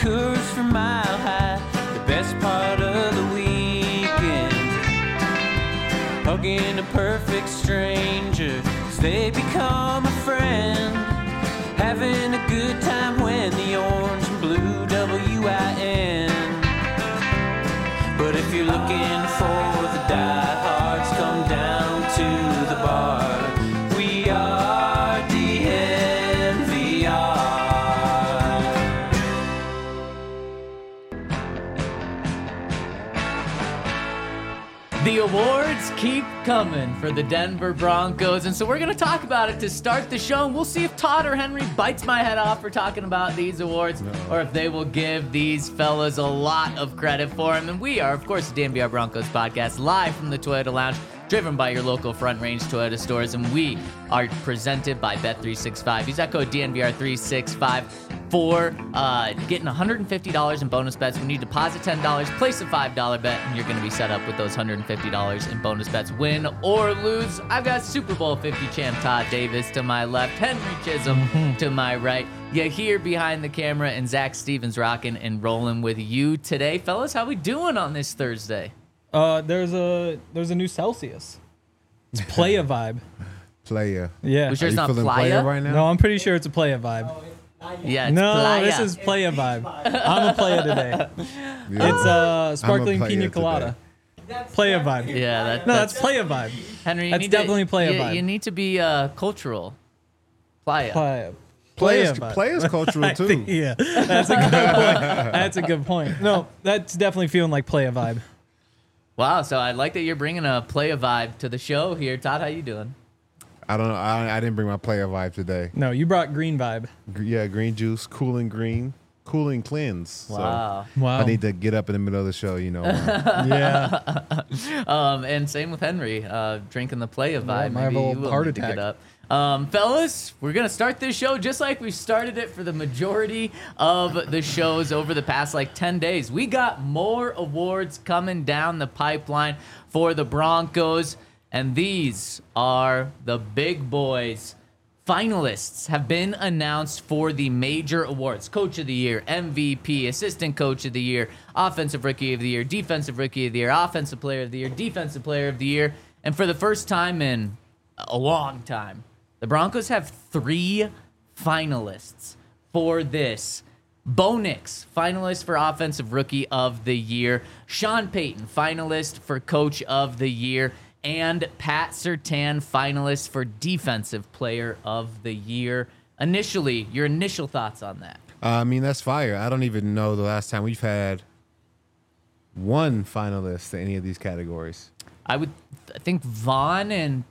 Coors for Mile High, the best part of the weekend. Hugging a perfect stranger as they become a friend. Having a good time when the orange and blue WIN. But if you're looking for the diehards, come down to the bar. We are DNVR. The awards keep coming for the Denver Broncos, and so we're going to talk about it to start the show, and we'll see if Todd or Henry bites my head off for talking about these awards, or if they will give these fellas a lot of credit for them. And we are, of course, the DNVR Broncos podcast, live from the Toyota Lounge, driven by your local Front Range Toyota stores, and we are presented by Bet365. Use that code DNVR365 for getting $150 in bonus bets. When you deposit $10, place a $5 bet, and you're going to be set up with those $150 in bonus bets, win or lose. I've got Super Bowl 50 champ Todd Davis to my left, Henry Chisholm to my right. You here behind the camera, and Zach Stevens rocking and rolling with you today. Fellas, how we doing on this Thursday? There's a new Celsius. It's Playa Vibe. Playa. Yeah. We sure it's not feeling Playa right now? No, I'm pretty sure it's a Playa Vibe. Yeah, it's No, Playa. this is Playa Vibe. I'm a Playa today. Yeah. It's sparkling I'm a pina Playa colada. Playa Vibe. Yeah, That's Playa Vibe. Henry. You That's need definitely Playa you, Vibe. You need to be cultural. Playa. Playa. Playa's, Vibe. Playa's cultural I too. think- yeah, that's a good point. That's a good point. No, that's definitely feeling like Playa Vibe. Wow, so I like that you're bringing a Playa vibe to the show here. Todd, how you doing? I don't know. I didn't bring my Playa vibe today. No, you brought green vibe. Yeah, green juice, cooling green, cooling cleanse. Wow. So Wow. I need to get up in the middle of the show, Yeah. And same with Henry, drinking the Playa vibe. might have Maybe a you little will heart need to get attack. up. Fellas, we're going to start this show just like we started it for the majority of the shows over the past 10 days. We got more awards coming down the pipeline for the Broncos, and these are the big boys. Finalists have been announced for the major awards: Coach of the Year, MVP, Assistant Coach of the Year, Offensive Rookie of the Year, Defensive Rookie of the Year, Offensive Player of the Year, Defensive Player of the Year. And for the first time in a long time, the Broncos have 3 finalists for this. Bo Nix, finalist for Offensive Rookie of the Year. Sean Payton, finalist for Coach of the Year. And Pat Surtain, finalist for Defensive Player of the Year. Initially, your initial thoughts on that? I mean, that's fire. I don't even know the last time we've had one finalist in any of these categories. I think Vaughn in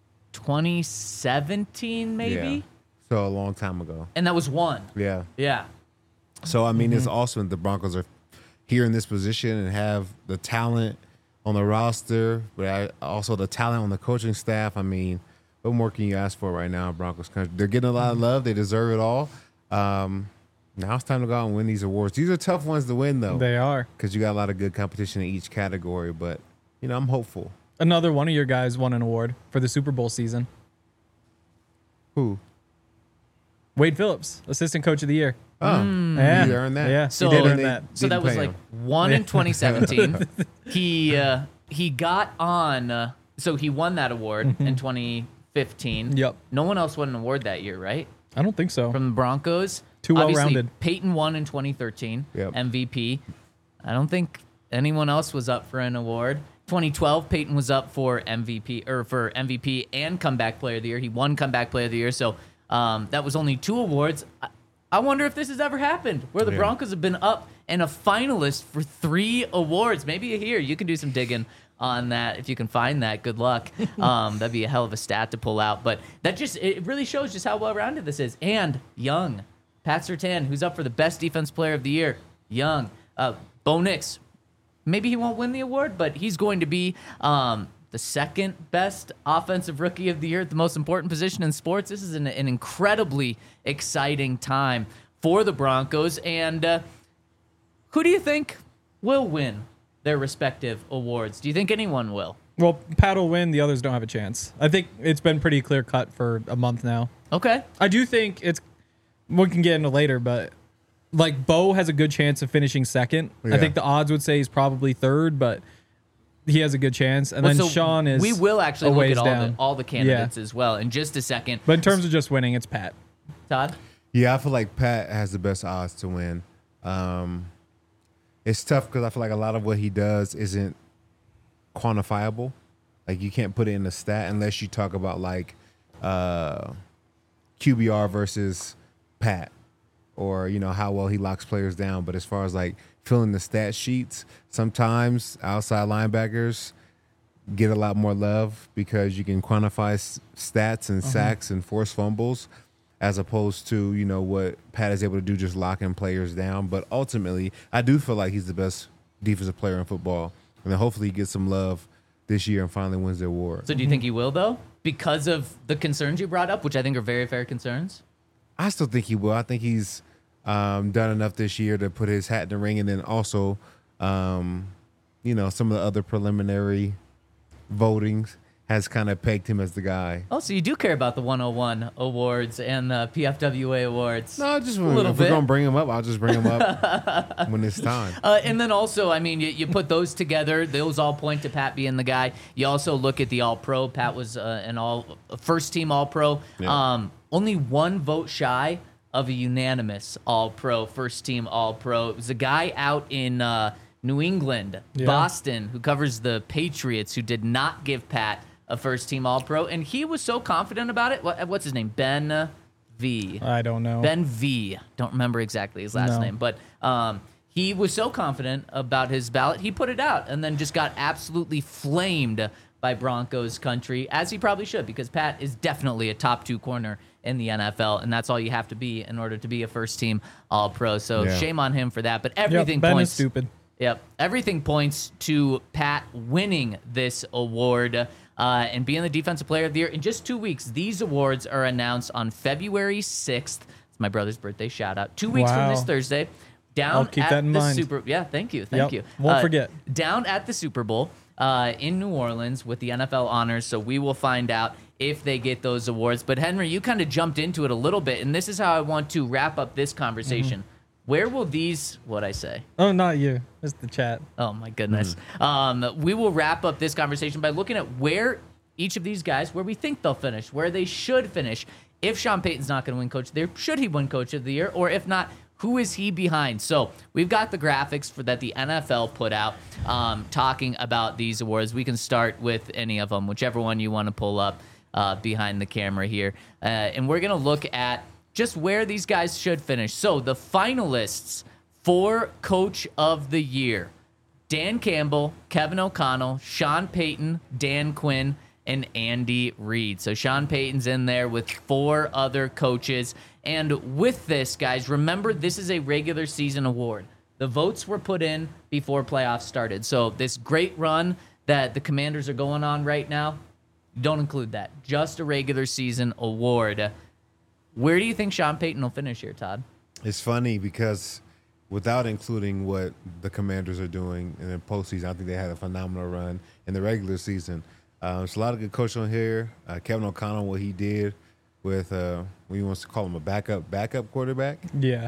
2017, maybe? Yeah. So a long time ago. And that was one. Yeah. Yeah. So, I mean, it's awesome that the Broncos are here in this position and have the talent on the roster, but also the talent on the coaching staff. I mean, what more can you ask for right now, Broncos country? They're getting a lot of love. They deserve it all. Now it's time to go out and win these awards. These are tough ones to win, though. They are. Because you got a lot of good competition in each category. But, I'm hopeful. Another one of your guys won an award for the Super Bowl season. Who? Wade Phillips, Assistant Coach of the Year. Oh, Yeah. he earned that. Yeah, So he did earn they- that. So that Didn't was pay like him. one in 2017. He got on. So he won that award in 2015. Yep. No one else won an award that year, right? I don't think so. From the Broncos. Too Obviously, well-rounded. Peyton won in 2013. Yep. MVP. I don't think anyone else was up for an award. 2012, Peyton was up for MVP and Comeback Player of the Year. He won Comeback Player of the Year. So that was only 2 awards. I wonder if this has ever happened where the Broncos have been up and a finalist for 3 awards. Maybe here you can do some digging on that. If you can find that, good luck. That'd be a hell of a stat to pull out. But it really shows just how well-rounded this is. And young. Pat Surtain, who's up for the Best Defense Player of the Year. Young. Bo Nix. Maybe he won't win the award, but he's going to be the second best Offensive Rookie of the Year at the most important position in sports. This is an incredibly exciting time for the Broncos. And who do you think will win their respective awards? Do you think anyone will? Well, Pat will win. The others don't have a chance. I think it's been pretty clear cut for a month now. Okay. I do think we can get into later, but like Bo has a good chance of finishing second. Yeah. I think the odds would say he's probably third, but he has a good chance. And then So Sean is. We will actually a look ways at down. all the candidates as well in just a second. But in terms of just winning, it's Pat. Todd? Yeah, I feel like Pat has the best odds to win. It's tough because I feel like a lot of what he does isn't quantifiable. Like you can't put it in a stat unless you talk about like QBR versus Pat, or how well he locks players down. But as far as like filling the stat sheets, sometimes outside linebackers get a lot more love because you can quantify stats and sacks and forced fumbles, as opposed to what Pat is able to do, just locking players down. But ultimately, I do feel like he's the best defensive player in football, and then hopefully he gets some love this year and finally wins the award. So do you think he will, though? Because of the concerns you brought up, which I think are very fair concerns? I still think he will. I think he's done enough this year to put his hat in the ring, and then also, some of the other preliminary votings has kind of pegged him as the guy. Oh, so you do care about the 101 awards and the PFWA awards. No, just a little if bit. we're gonna bring him up, I'll just bring him up when it's time. And then also, I mean, you put those together; those all point to Pat being the guy. You also look at the All-Pro. Pat was a first-team All-Pro. Yeah. Only one vote shy of a unanimous All-Pro, first-team All-Pro. It was a guy out in New England, Boston, who covers the Patriots, who did not give Pat a first-team All-Pro, and he was so confident about it. What's his name? Ben V. I don't know. Ben V. Don't remember exactly his last name, but he was so confident about his ballot, he put it out and then just got absolutely flamed by Broncos country, as he probably should, because Pat is definitely a top 2 corner in the NFL, and that's all you have to be in order to be a first-team All-Pro. So shame on him for that, but everything Ben points... is stupid. Yep. Everything points to Pat winning this award and being the Defensive Player of the Year. In just 2 weeks, these awards are announced on February 6th. It's my brother's birthday. Shout out. 2 weeks from this Thursday. I'll keep that in mind. Thank you. Won't forget. Down at the Super Bowl in New Orleans with the NFL honors. So we will find out if they get those awards. But Henry, you kind of jumped into it a little bit, and this is how I want to wrap up this conversation. Where will these, what'd I say? Oh, not you. It's the chat. Oh, my goodness. We will wrap up this conversation by looking at where each of these guys, where we think they'll finish, where they should finish. If Sean Payton's not going to win Coach of the Year, should he win Coach of the Year? Or if not, who is he behind? So we've got the graphics that the NFL put out talking about these awards. We can start with any of them, whichever one you want to pull up behind the camera here. And we're going to look at just where these guys should finish. So the finalists for Coach of the Year: Dan Campbell, Kevin O'Connell, Sean Payton, Dan Quinn, and Andy Reid. So Sean Payton's in there with 4 other coaches. And with this, guys, remember, this is a regular season award. The votes were put in before playoffs started. So this great run that the Commanders are going on right now, don't include that. Just a regular season award. Where do you think Sean Payton will finish here, Todd? It's funny because without including what the Commanders are doing in the postseason, I think they had a phenomenal run in the regular season. There's a lot of good coaching on here. Kevin O'Connell, what he did with, he wants to call him a backup quarterback. Yeah.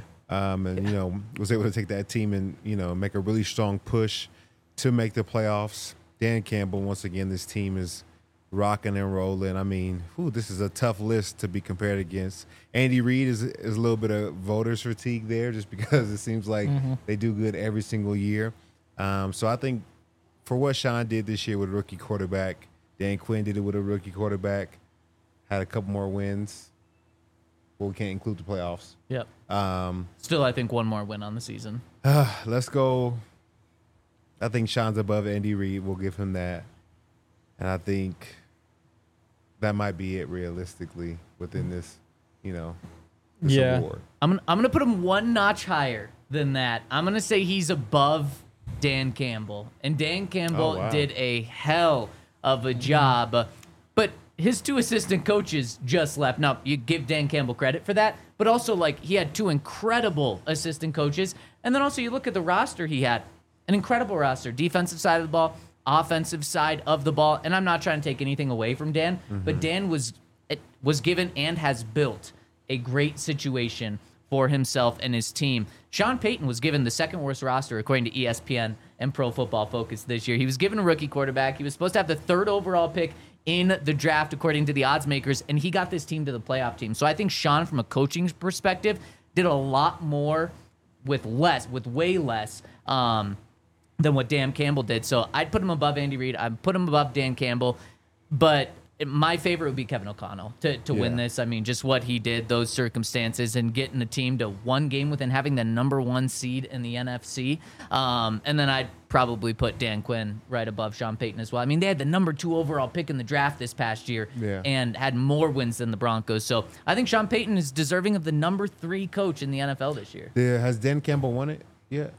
Was able to take that team and, make a really strong push to make the playoffs. Dan Campbell, once again, this team is rocking and rolling. I mean, this is a tough list to be compared against. Andy Reid is a little bit of voters fatigue there, just because it seems like they do good every single year. So I think for what Sean did this year with a rookie quarterback, Dan Quinn did it with a rookie quarterback, had a couple more wins. Well, we can't include the playoffs. Yep. Still, I think one more win on the season. Let's go. I think Sean's above Andy Reid. We'll give him that. And I think that might be it realistically within this, this award. I'm gonna put him one notch higher than that. I'm gonna say he's above Dan Campbell, and Dan Campbell did a hell of a job. But his 2 assistant coaches just left. Now you give Dan Campbell credit for that, but also he had 2 incredible assistant coaches, and then also you look at the roster he had, an incredible roster, defensive side of the ball, offensive side of the ball. And I'm not trying to take anything away from Dan, but Dan was given and has built a great situation for himself and his team. Sean Payton was given the second worst roster according to ESPN and Pro Football Focus this year. He was given a rookie quarterback. He was supposed to have the third overall pick in the draft according to the odds makers, and he got this team to the playoff team. So I think Sean, from a coaching perspective, did a lot more with way less than what Dan Campbell did. So I'd put him above Andy Reid. I'd put him above Dan Campbell. But my favorite would be Kevin O'Connell to win this. I mean, just what he did, those circumstances, and getting the team to one game within having the number one seed in the NFC. And then I'd probably put Dan Quinn right above Sean Payton as well. I mean, they had the number 2 overall pick in the draft this past year and had more wins than the Broncos. So I think Sean Payton is deserving of the number 3 coach in the NFL this year. Yeah, has Dan Campbell won it yet?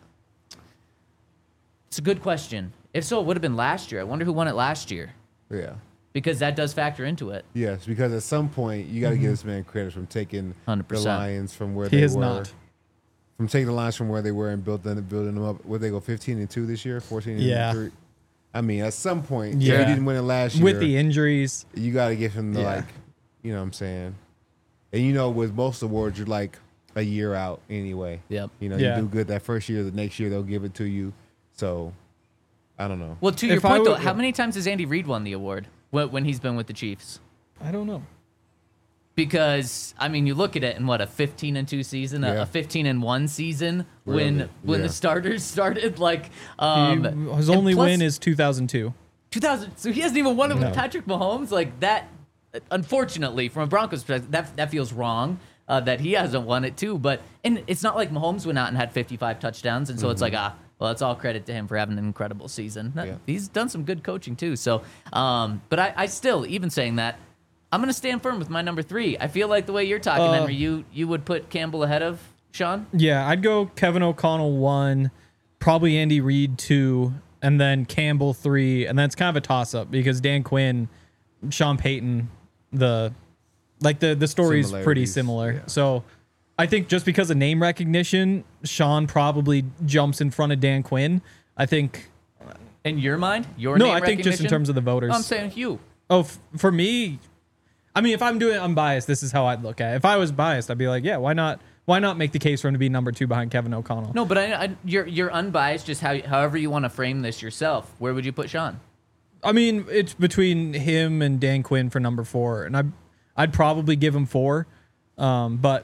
It's a good question. If so, it would have been last year. I wonder who won it last year. Yeah. Because that does factor into it. Yes, because at some point you got to give this man credit from taking 100%. the Lions from where He they is were. not. From taking the Lions from where they were and building them up. Would they go 15-2 this year? 14-3? I mean, at some point, if he didn't win it last year, with the injuries, you got to give him the you know what I'm saying? And with most awards, you're like a year out anyway. Yep. You do good that first year, the next year they'll give it to you. So, I don't know. Well, to your point, though, how many times has Andy Reid won the award when he's been with the Chiefs? I don't know. Because, I mean, you look at it in, a 15-2 season, a 15-1 season when the starters started. His only win is 2002. 2000. So he hasn't even won it with Patrick Mahomes. Like that, unfortunately, from a Broncos perspective, that feels wrong that he hasn't won it too. And it's not like Mahomes went out and had 55 touchdowns. And so it's like, well, it's all credit to him for having an incredible season. He's done some good coaching too. So, but I still, even saying that, I'm going to stand firm with my number 3. I feel like the way you're talking, Henry, you would put Campbell ahead of Sean? Yeah, I'd go Kevin O'Connell 1, probably Andy Reid 2, and then Campbell 3. And that's kind of a toss-up because Dan Quinn, Sean Payton, the story's pretty similar. Yeah. So I think just because of name recognition, Sean probably jumps in front of Dan Quinn. I think... In your mind? Name I think just in terms of the voters. No, I'm saying you. Oh, for me... I mean, if I'm doing it unbiased, this is how I'd look at it. If I was biased, I'd be like, yeah, why not make the case for him to be number 2 behind Kevin O'Connell? No, but you're unbiased, just however you want to frame this yourself. Where would you put Sean? I mean, it's between him and Dan Quinn for number 4, and I'd probably give him 4, but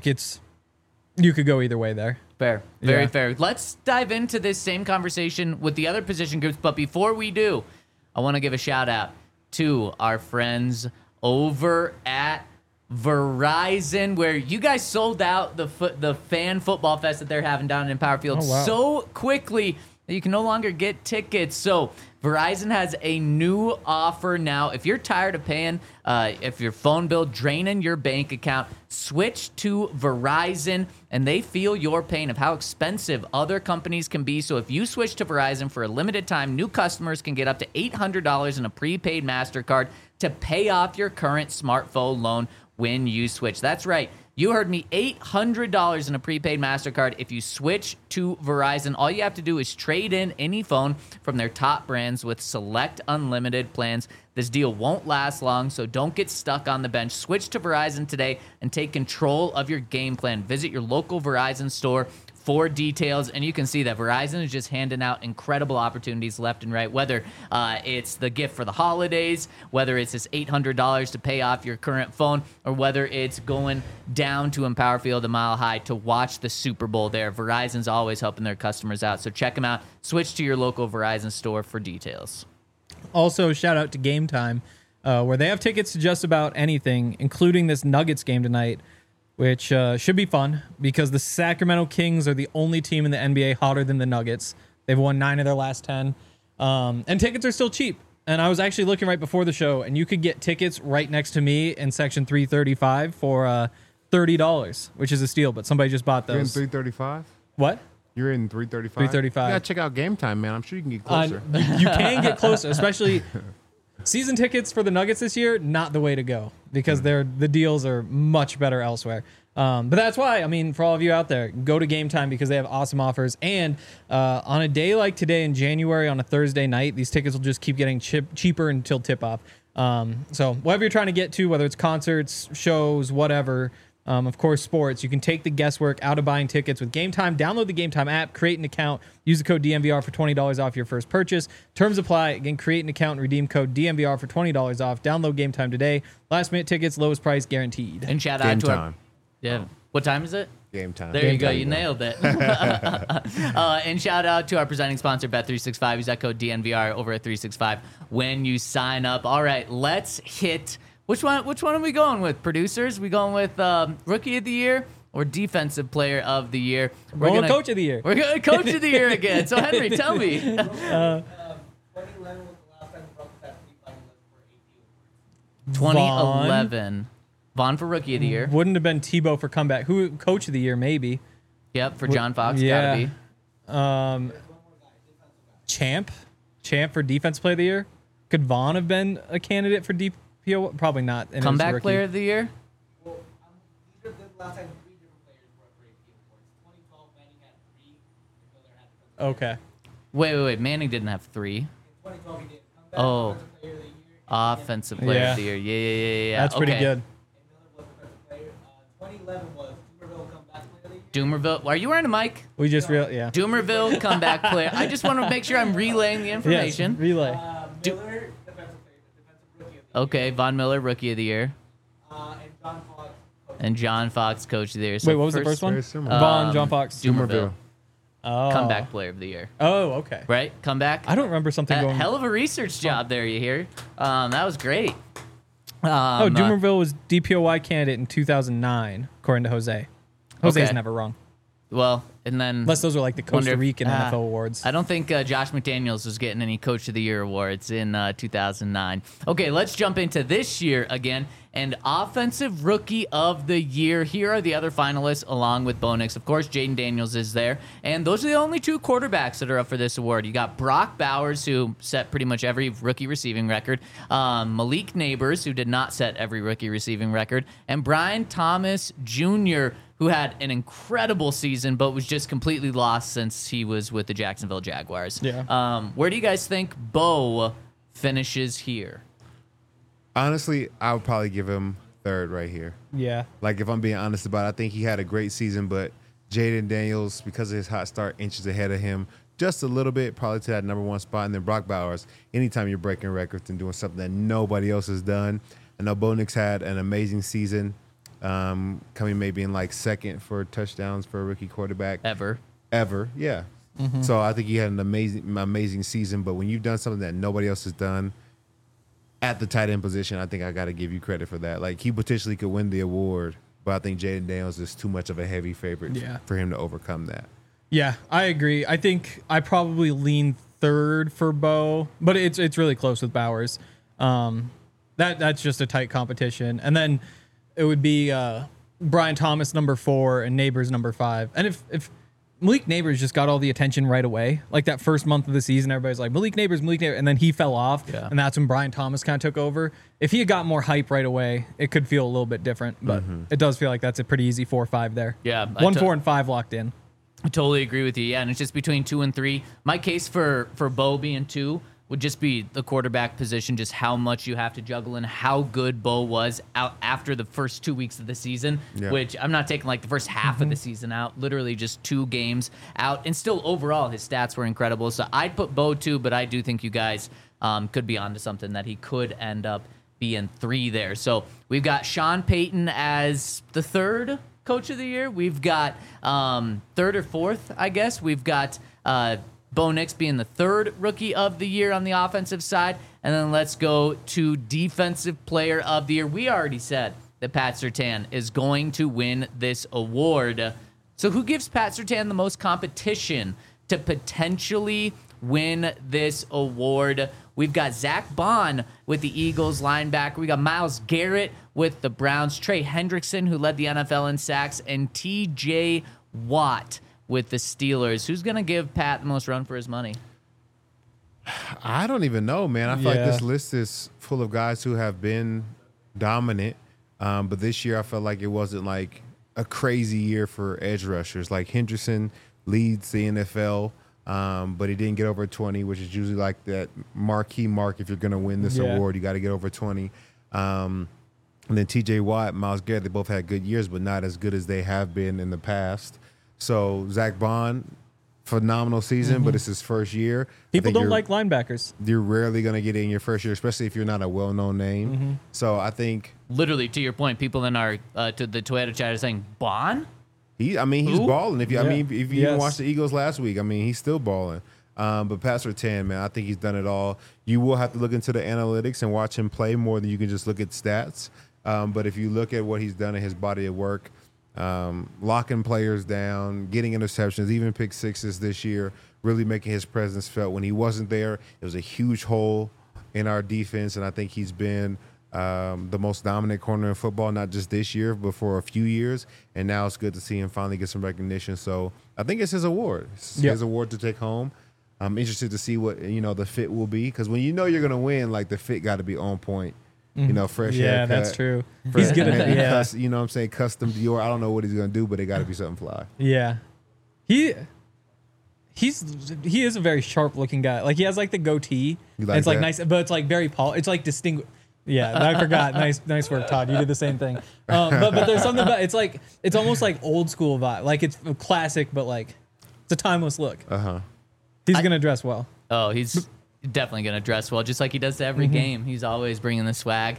you could go either way there. Fair, very fair. Let's dive into this same conversation with the other position groups, but before we do, I want to give a shout out to our friends over at Verizon, where you guys sold out the fan football fest that they're having down in Empower Field so quickly that you can no longer get tickets. So Verizon has a new offer now. If you're tired of paying, if your phone bill draining your bank account, switch to Verizon, and they feel your pain of how expensive other companies can be. So if you switch to Verizon for a limited time, new customers can get up to $800 in a prepaid MasterCard to pay off your current smartphone loan when you switch. That's right. You heard me, $800 in a prepaid MasterCard if you switch to Verizon. All you have to do is trade in any phone from their top brands with select unlimited plans. This deal won't last long, so don't get stuck on the bench. Switch to Verizon today and take control of your game plan. Visit your local Verizon store for details, and you can see that Verizon is just handing out incredible opportunities left and right, whether it's the gift for the holidays, whether it's this $800 to pay off your current phone, or whether it's going down to Empower Field a Mile High to watch the Super Bowl there. Verizon's always helping their customers out, so check them out. Switch to your local Verizon store for details. Also, shout out to Game Time, where they have tickets to just about anything, including this Nuggets game tonight, which should be fun because the Sacramento Kings are the only team in the NBA hotter than the Nuggets. They've won 9 of their last 10. And tickets are still cheap. And I was actually looking right before the show, and you could get tickets right next to me in section 335 for $30, which is a steal, but somebody just bought those. You're in 335? What? You're in 335? 335. You gotta check out Game Time, man. I'm sure you can get closer. You can get closer, especially... Season tickets for the Nuggets this year, not the way to go because the deals are much better elsewhere. But that's why, I mean, for all of you out there, go to Game Time because they have awesome offers. And on a day like today in January on a Thursday night, these tickets will just keep getting cheaper until tip-off. So whatever you're trying to get to, whether it's concerts, shows, whatever, Of course, sports. You can take the guesswork out of buying tickets with Game Time. Download the Game Time app, create an account, use the code DMVR for $20 off your first purchase. Terms apply. Again, create an account and redeem code DMVR for $20 off. Download Game Time today. Last minute tickets, lowest price guaranteed. And shout Game out to time. our. Yeah. What time is it? Game time. There you go. You nailed it. And shout out to our presenting sponsor, Bet365. Use that code DNVR over at 365 when you sign up. All right, let's hit. Which one are we going with, producers? We going with Rookie of the Year or Defensive Player of the Year? We're going Coach of the Year. We're going Coach of the Year again. So, Henry, tell me. 2011 was the last time the Broncos had 3 finalists for AP awards. 2011. Vaughn for Rookie of the Year. Wouldn't have been Tebow for comeback. Who Coach of the Year, maybe. Yep, for John Fox. Yeah. Gotta be. Champ for Defense Player of the Year. Could Vaughn have been a candidate for DPO? Probably not. And it was a Comeback rookie. Player of the Year. Well, these are the last time 3 different players were up for AP awards. 2012, Manning had 3. Miller had defensive Okay. Wait. Manning didn't have 3. In 2012, he did. Comeback, Oh. Defensive Player of the Year. Offensive Player Yeah. of the Year. Yeah. That's pretty Okay. good. And Miller was defensive player. 2011 was Tuberville comeback player of the year. Doomerville. Are you wearing a mic? We just yeah. Doomerville comeback player. I just want to make sure I'm relaying the Yes, information. relay. Miller, defensive rookie of the Okay, Von Miller, Rookie of the Year, year. And John Fox. and John Fox, Coach of the Year. So Wait, what was the first one? Very similar. Vaughn, John Fox. Doomerville, Oh. Comeback Player of the Year. Oh, okay. Right? Comeback. I don't remember something A going. hell of a research job there, you hear? That was great. Oh, Doomerville was DPOY candidate in 2009, according to Jose. Jose's Okay. never wrong. Well, and then Unless those are like the wonder Costa if- Rican NFL awards. I don't think Josh McDaniels was getting any Coach of the Year awards in 2009. Okay, let's jump into this year again. And Offensive Rookie of the Year. Here are the other finalists along with Bo Nix. Of course, Jaden Daniels is there. And those are the only 2 quarterbacks that are up for this award. You got Brock Bowers, who set pretty much every rookie receiving record. Malik Neighbors, who did not set every rookie receiving record. And Brian Thomas Jr., who had an incredible season, but was just completely lost since he was with the Jacksonville Jaguars. Yeah. Where do you guys think Bo finishes here? Honestly, I would probably give him third right here. Yeah. Like, if I'm being honest about it, I think he had a great season, but Jaden Daniels, because of his hot start, inches ahead of him just a little bit, probably to that number 1 spot. And then Brock Bowers, anytime you're breaking records and doing something that nobody else has done. I know Bo Nix had an amazing season, coming maybe in like second for touchdowns for a rookie quarterback. Ever. Yeah. So I think he had an amazing season, but when you've done something that nobody else has done at the tight end position, I think I got to give you credit for that. Like, he potentially could win the award, but I think Jaden Daniels is too much of a heavy favorite for him to overcome that. Yeah, I agree. I think I probably lean third for Bo, but it's really close with Bowers. That's just a tight competition. And then it would be Brian Thomas number 4 and Neighbors number 5. And if Malik Neighbors just got all the attention right away, like that first month of the season, everybody's like, Malik Neighbors, and then he fell off, and that's when Brian Thomas kind of took over. If he had got more hype right away, it could feel a little bit different, but it does feel like that's a pretty easy 4-5 there. Yeah, 1, 4, and 5 locked in. I totally agree with you. Yeah, and it's just between 2 and 3. My case for Bo being 2 would just be the quarterback position, just how much you have to juggle and how good Bo was out after the first 2 weeks of the season, which I'm not taking like the first half of the season out, literally just 2 games out. And still overall, his stats were incredible. So I'd put Bo 2, but I do think you guys could be onto something that he could end up being 3 there. So we've got Sean Payton as the 3rd Coach of the Year. We've got 3rd or 4th, I guess. We've got Bo Nix being the 3rd Rookie of the Year on the offensive side. And then let's go to Defensive Player of the Year. We already said that Pat Surtain is going to win this award. So who gives Pat Surtain the most competition to potentially win this award? We've got Zach Bond with the Eagles linebacker. We got Myles Garrett with the Browns. Trey Hendrickson, who led the NFL in sacks. And TJ Watt with the Steelers. Who's going to give Pat the most run for his money? I don't even know, man. I feel like this list is full of guys who have been dominant. But this year I felt like it wasn't like a crazy year for edge rushers. Like, Hendrickson leads the NFL, but he didn't get over 20, which is usually like that marquee mark. If you're going to win this award, you got to get over 20. And then T.J. Watt, Myles Garrett, they both had good years, but not as good as they have been in the past. So Zach Bond, phenomenal season, but it's his first year. I People think don't you're- like linebackers. You're rarely going to get it in your first year, especially if you're not a well-known name. So I think Literally, to your point, people in our to the Twitter chat are saying Bond. he's Who? balling. If you Yeah. if you even Yes. watched the Eagles last week, I mean, he's still balling. But Pat Surtain, man, I think he's done it all. You will have to look into the analytics and watch him play more than you can just look at stats. But if you look at what he's done in his body of work, locking players down, getting interceptions, even pick sixes this year, really making his presence felt. When he wasn't there, it was a huge hole in our defense, and I think he's been the most dominant corner in football, not just this year, but for a few years. And now it's good to see him finally get some recognition. So I think it's his award. It's Yep. his award to take home. I'm interested to see what the fit will be, because when you know you're gonna win, like the fit got to be on point. Fresh Yeah, haircut. that's true. fresh- He's good at maybe that. Yeah. you know what I'm saying, custom Dior. I don't know what he's gonna do, but it got to be something fly. Yeah. He is a very sharp looking guy. Like he has like the goatee. You like it's like that? nice, but it's like very it's like distinguished. Yeah, I forgot. Nice work, Todd. You did the same thing. But there's something about it's almost like old school vibe. Like it's a classic, but like it's a timeless look. He's gonna dress well. Oh, he's definitely going to dress well, just like he does to every game. He's always bringing the swag.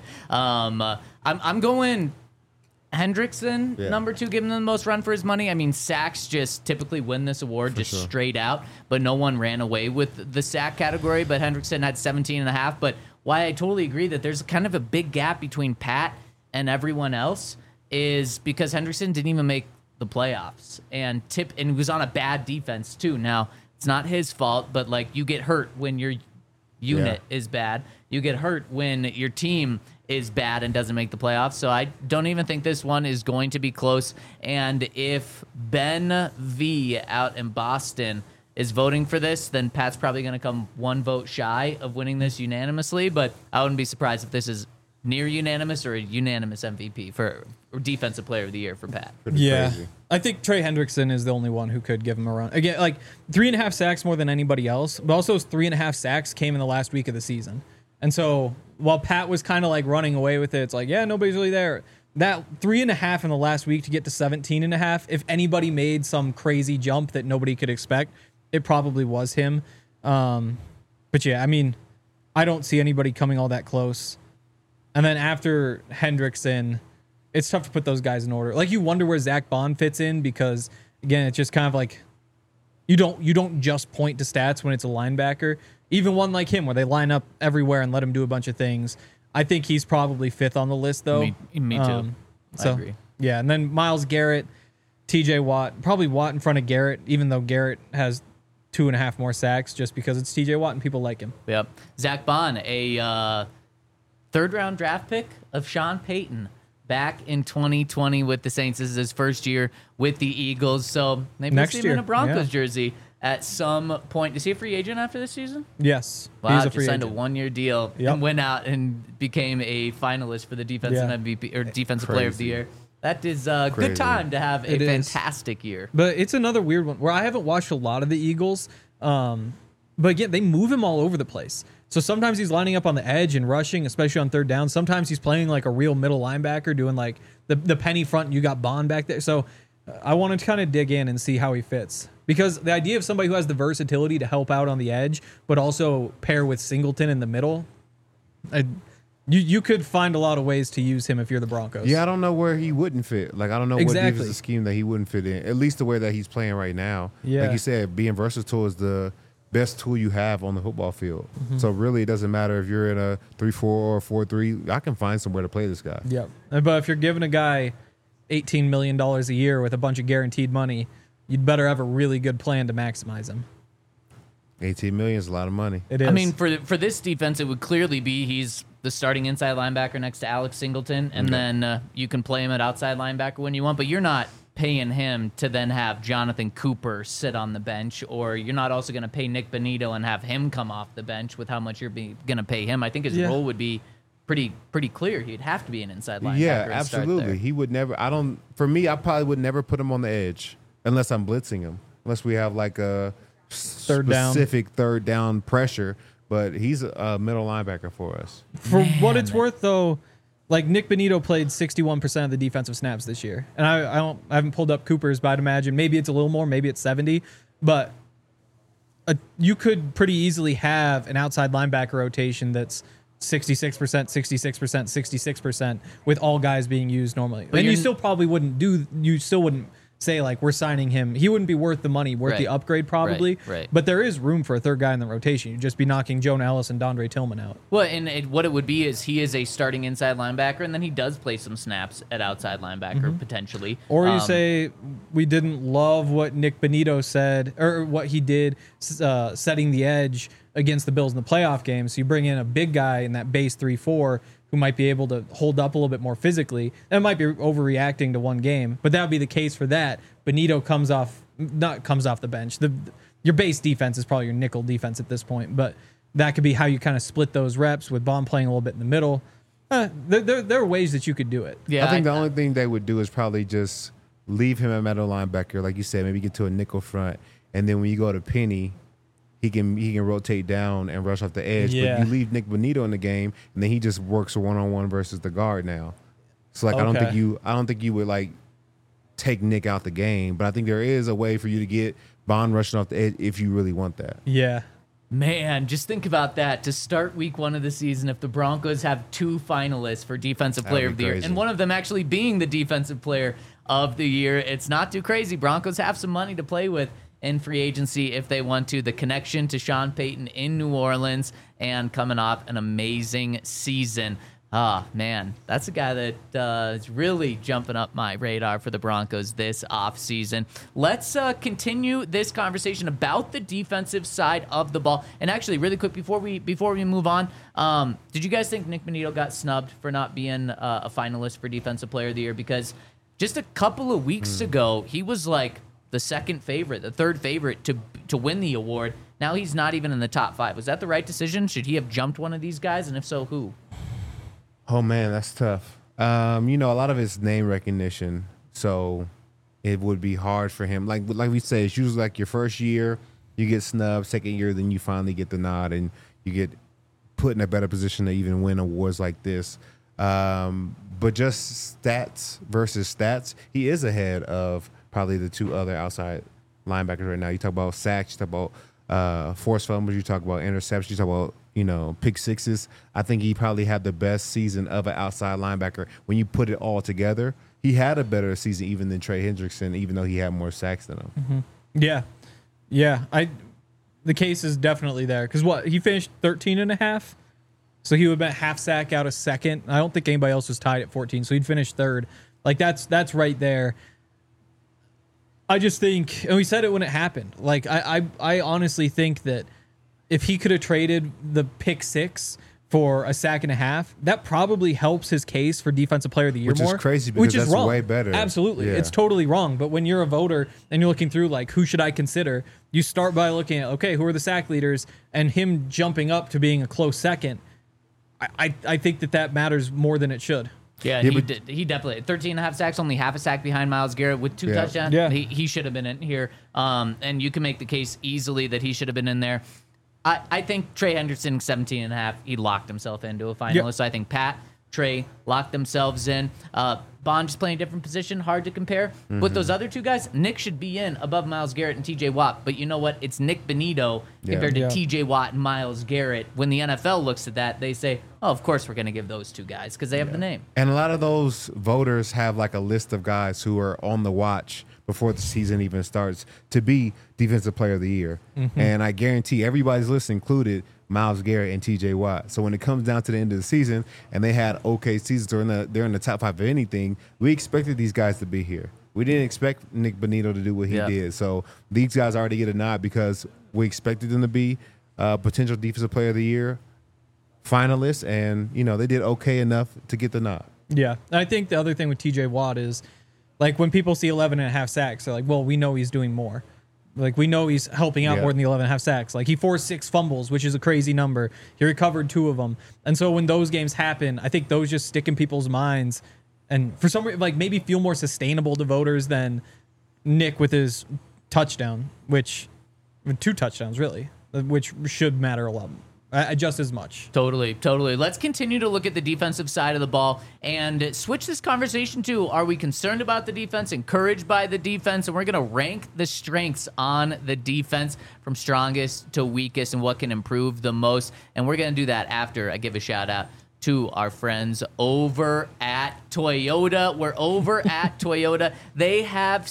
I'm going Hendrickson, Yeah. number 2, giving him the most run for his money. I mean, sacks just typically win this award just sure. straight out, but no one ran away with the sack category. But Hendrickson had 17.5. But why I totally agree that there's kind of a big gap between Pat and everyone else is because Hendrickson didn't even make the playoffs, and he was on a bad defense too. Now, it's not his fault, but like you get hurt when your unit is bad. You get hurt when your team is bad and doesn't make the playoffs. So I don't even think this one is going to be close. And if Ben V out in Boston is voting for this, then Pat's probably going to come one vote shy of winning this unanimously. But I wouldn't be surprised if this is near unanimous or a unanimous MVP for or Defensive Player of the Year for Pat. Pretty Yeah. crazy. I think Trey Hendrickson is the only one who could give him a run. Again, like 3.5 sacks more than anybody else, but also those 3.5 sacks came in the last week of the season. And so while Pat was kind of like running away with it, it's like, yeah, nobody's really there. That 3.5 in the last week to get to 17.5, if anybody made some crazy jump that nobody could expect, it probably was him. But yeah, I mean, I don't see anybody coming all that close. And then after Hendrickson, it's tough to put those guys in order. Like you wonder where Zach Bond fits in because again, it's just kind of like you don't just point to stats when it's a linebacker. Even one like him where they line up everywhere and let him do a bunch of things. I think he's probably 5th on the list though. Me too. I agree. Yeah, and then Myles Garrett, TJ Watt, probably Watt in front of Garrett, even though Garrett has 2.5 more sacks just because it's TJ Watt and people like him. Yep. Zach Bond, a 3rd-round draft pick of Sean Payton back in 2020 with the Saints. This is his first year with the Eagles, so maybe Next we'll see him in year, a Broncos yeah. jersey at some point. Is he a free agent after this season? Yes. Wow, he's a just free signed agent. a 1-year deal Yep. and went out and became a finalist for the defensive Yeah. MVP or defensive player of the Crazy. year. That is a Crazy. good time to have a It is. fantastic year. But it's another weird one where I haven't watched a lot of the Eagles. But again, they move him all over the place. So sometimes he's lining up on the edge and rushing, especially on 3rd down. Sometimes he's playing like a real middle linebacker, doing like the penny front. And you got Bond back there. So I wanted to kind of dig in and see how he fits. Because the idea of somebody who has the versatility to help out on the edge, but also pair with Singleton in the middle, you could find a lot of ways to use him if you're the Broncos. Yeah, I don't know where he wouldn't fit. Like, I don't know what Exactly. defensive scheme that he wouldn't fit in. At least the way that he's playing right now. Yeah. Like you said, being versatile is the best tool you have on the football field. Mm-hmm. So really, it doesn't matter if you're in a 3-4 or 4-3. I can find somewhere to play this guy. Yep. But if you're giving a guy $18 million a year with a bunch of guaranteed money, you'd better have a really good plan to maximize him. 18 million is a lot of money. It is. I mean, for this defense, it would clearly be he's the starting inside linebacker next to Alex Singleton, and then you can play him at outside linebacker when you want, but you're not paying him to then have Jonathan Cooper sit on the bench, or you're not also going to pay Nick Benito and have him come off the bench with how much you're going to pay him. I think his Yeah. role would be pretty clear. He'd have to be an inside linebacker. Yeah, and start absolutely. there. He would never. For me, I probably would never put him on the edge unless I'm blitzing him. Unless we have like a Third down. specific 3rd down pressure. But he's a middle linebacker for us. for what it's worth, though, like Nick Bonito played 61% of the defensive snaps this year. And I haven't pulled up Cooper's, but I'd imagine maybe it's a little more, maybe it's 70. But you could pretty easily have an outside linebacker rotation that's 66%, 66%, 66% with all guys being used normally. But and you still probably wouldn't say like we're signing him. He wouldn't be worth the money, worth the upgrade probably. Right. But there is room for a third guy in the rotation. You'd just be knocking Jonah Ellis and Dondre Tillman out. Well, and what it would be is he is a starting inside linebacker, and then he does play some snaps at outside linebacker potentially. Or you say we didn't love what Nick Bonito said or what he did setting the edge against the Bills in the playoff game. So you bring in a big guy in that base 3-4 who might be able to hold up a little bit more physically. That might be overreacting to one game, but that would be the case for that. Bonito comes off the bench. Your base defense is probably your nickel defense at this point, but that could be how you kind of split those reps with Bond playing a little bit in the middle. There are ways that you could do it. Yeah, I think the only thing they would do is probably just leave him at middle linebacker, like you said, maybe get to a nickel front, and then when you go to Penny, he can rotate down and rush off the edge. Yeah. But you leave Nick Bonito in the game, and then he just works one-on-one versus the guard now. So like I don't think you would like take Nick out the game, but I think there is a way for you to get Bond rushing off the edge if you really want that. Yeah. Man, just think about that. To start week 1 of the season, if the Broncos have 2 finalists for Defensive Player of the Year, crazy. and one of them actually being the Defensive Player of the Year, it's not too crazy. Broncos have some money to play with in free agency if they want to. The connection to Sean Payton in New Orleans and coming off an amazing season. Man, that's a guy that is really jumping up my radar for the Broncos this offseason. Let's continue this conversation about the defensive side of the ball. And actually, really quick, before we move on, did you guys think Nick Bonito got snubbed for not being a finalist for Defensive Player of the Year? Because just a couple of weeks ago, he was like the second favorite, the third favorite to win the award. Now he's not even in the top 5. Was that the right decision? Should he have jumped one of these guys? And if so, who? Oh man, that's tough. A lot of it's name recognition, so it would be hard for him. Like we say, it's usually like your first year, you get snubbed. Second year, then you finally get the nod, and you get put in a better position to even win awards like this. But just stats versus stats, he is ahead of probably the 2 other outside linebackers right now. You talk about sacks, you talk about forced fumbles, you talk about interceptions, you talk about pick sixes. I think he probably had the best season of an outside linebacker. When you put it all together, he had a better season even than Trey Hendrickson, even though he had more sacks than him. Mm-hmm. Yeah. The case is definitely there because he finished 13.5, so he would have been half sack out of second. I don't think anybody else was tied at 14, so he'd finish third. Like that's right there. I just think, and we said it when it happened. Like I honestly think that if he could have traded the pick 6 for a sack and a half, that probably helps his case for Defensive Player of the Year Which more. is crazy because that's wrong. way better. Absolutely. Yeah. It's totally wrong. But when you're a voter and you're looking through, like, who should I consider? You start by looking at, okay, who are the sack leaders? And him jumping up to being a close second, I think that matters more than it should. Yeah, he definitely 13.5 sacks, only half a sack behind Myles Garrett with 2 touchdowns. Yeah. He should have been in here. And you can make the case easily that he should have been in there. I think Trey Hendrickson, 17.5, he locked himself into a finalist. Yep. So I think Pat, Trey locked themselves in. Bond just playing a different position, hard to compare. With those other 2 guys, Nick should be in above Myles Garrett and TJ Watt. But you know what? It's Nick Bonito compared to TJ Watt and Myles Garrett. When the NFL looks at that, they say, oh, of course we're going to give those 2 guys because they have the name. And a lot of those voters have like a list of guys who are on the watch before the season even starts to be Defensive Player of the Year. And I guarantee everybody's list included Myles Garrett and TJ Watt. So when it comes down to the end of the season and they had okay seasons or they're in the top 5 of anything, we expected these guys to be here. We didn't expect Nick Bonito to do what he did. So these guys already get a nod because we expected them to be potential Defensive Player of the Year finalists, and they did okay enough to get the nod. Yeah. I think the other thing with TJ Watt is, like, when people see 11.5 sacks, they're like, well, we know he's doing more. Like, we know he's helping out more than the 11.5 sacks. Like, he forced 6 fumbles, which is a crazy number. He recovered 2 of them. And so when those games happen, I think those just stick in people's minds. And for some reason, like, maybe feel more sustainable to voters than Nick with his touchdown, with 2 touchdowns, really, which should matter a lot. just as much. Totally. Let's continue to look at the defensive side of the ball and switch this conversation to, are we concerned about the defense, encouraged by the defense? And we're going to rank the strengths on the defense from strongest to weakest and what can improve the most. And we're going to do that after I give a shout out to our friends over at Toyota. We're over at Toyota. They have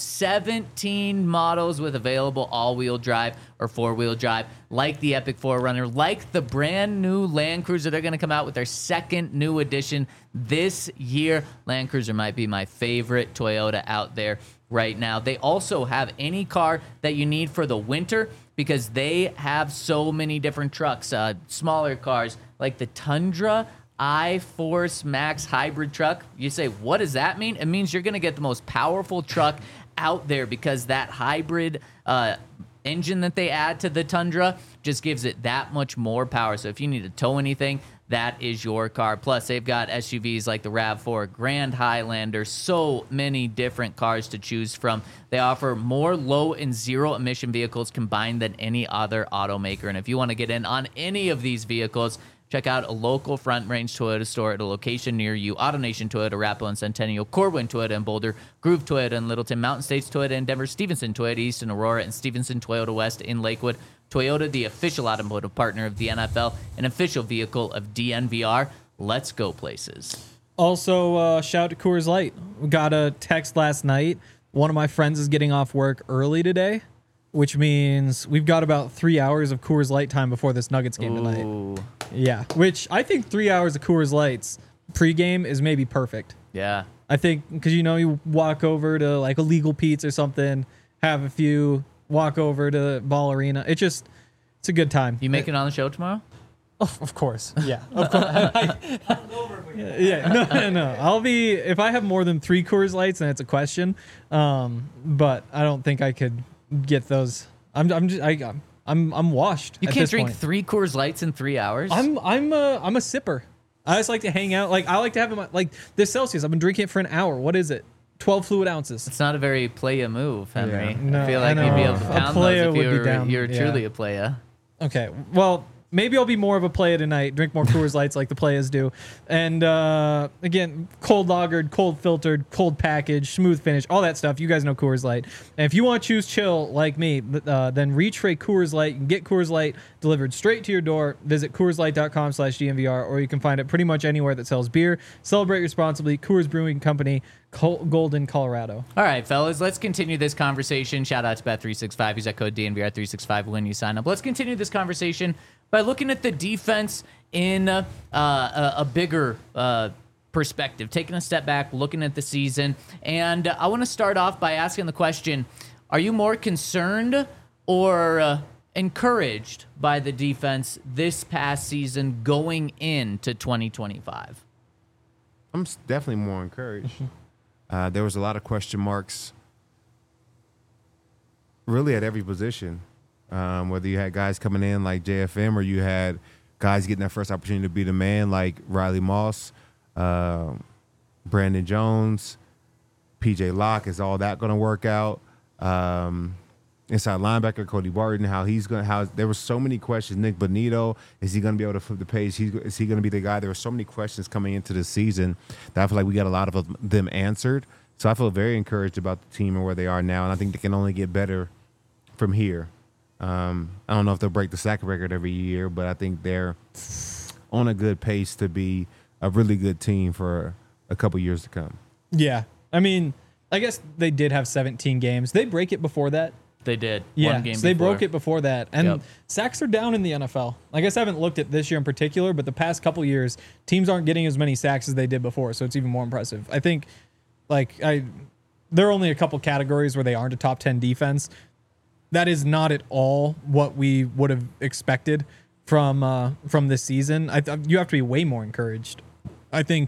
17 models with available all-wheel drive or four-wheel drive, like the Epic 4Runner, like the brand new Land Cruiser. They're going to come out with their second new edition this year. Land Cruiser might be my favorite Toyota out there right now. They also have any car that you need for the winter, because they have so many different trucks, smaller cars like the Tundra iForce Max hybrid truck. You say, what does that mean? It means you're going to get the most powerful truck out there, because that hybrid engine that they add to the Tundra just gives it that much more power. So if you need to tow anything, that is your car. Plus, they've got SUVs like the RAV4, Grand Highlander, so many different cars to choose from. They offer more low and zero emission vehicles combined than any other automaker. And if you want to get in on any of these vehicles, check out a local Front Range Toyota store at a location near you. AutoNation Toyota, Arapahoe and Centennial, Corwin Toyota in Boulder, Groove Toyota in Littleton, Mountain States Toyota in Denver, Stevenson Toyota East in Aurora, and Stevenson Toyota West in Lakewood. Toyota, the official automotive partner of the NFL, an official vehicle of DNVR. Let's go places. Also, shout out to Coors Light. We got a text last night. One of my friends is getting off work early today, which means we've got about 3 hours of Coors Light time before this Nuggets game tonight. Ooh. Yeah, which I think 3 hours of Coors Lights pregame is maybe perfect. Yeah. I think because, you walk over to like a Legal Pete's or something, have a few, walk over to Ball Arena. It's a good time. You make it on the show tomorrow? Oh, of course. Yeah. Of course. Yeah. No. I'll be, if I have more than 3 Coors Lights, then it's a question. But I don't think I could get those. I'm washed. You at can't this drink point. 3 Coors Lights in 3 hours? I'm a sipper. I just like to hang out. Like I like to have them like this Celsius. I've been drinking it for an hour. What is it? 12 fluid ounces. It's not a very playa move, Henry. Yeah. No, I feel I like you'd be able to know. A pound playa those if would be down, you're yeah. truly a playa. Okay. Well, maybe I'll be more of a playa tonight. Drink more Coors Lights like the playas do. And again, cold lagered, cold filtered, cold packaged, smooth finish, all that stuff. You guys know Coors Light. And if you want to choose chill like me, then reach for a Coors Light. You can get Coors Light delivered straight to your door. Visit CoorsLight.com/DNVR, or you can find it pretty much anywhere that sells beer. Celebrate responsibly. Coors Brewing Company, Golden, Colorado. All right, fellas, let's continue this conversation. Shout out to Bet365. Use that code DNVR365 when you sign up. Let's continue this conversation by looking at the defense in a bigger perspective, taking a step back, looking at the season. And I want to start off by asking the question, are you more concerned or encouraged by the defense this past season going into 2025? I'm definitely more encouraged. There was a lot of question marks really at every position, whether you had guys coming in like JFM or you had guys getting their first opportunity to be the man like Riley Moss, Brandon Jones, PJ Locke. Is all that going to work out? Inside linebacker Cody Barton, there were so many questions. Nick Bonito, is he going to be able to flip the page? Is he going to be the guy? There were so many questions coming into the season that I feel like we got a lot of them answered. So I feel very encouraged about the team and where they are now, and I think they can only get better from here. I don't know if they'll break the sack record every year, but I think they're on a good pace to be a really good team for a couple years to come. Yeah. I mean, I guess they did have 17 games. They break it before that. They did. Yeah, One game so they before. broke it before that. And Yep. sacks are down in the NFL. I guess I haven't looked at this year in particular, but the past couple years, teams aren't getting as many sacks as they did before, so it's even more impressive. I think, there are only a couple categories where they aren't a top 10 defense. That is not at all what we would have expected from this season. You have to be way more encouraged. I think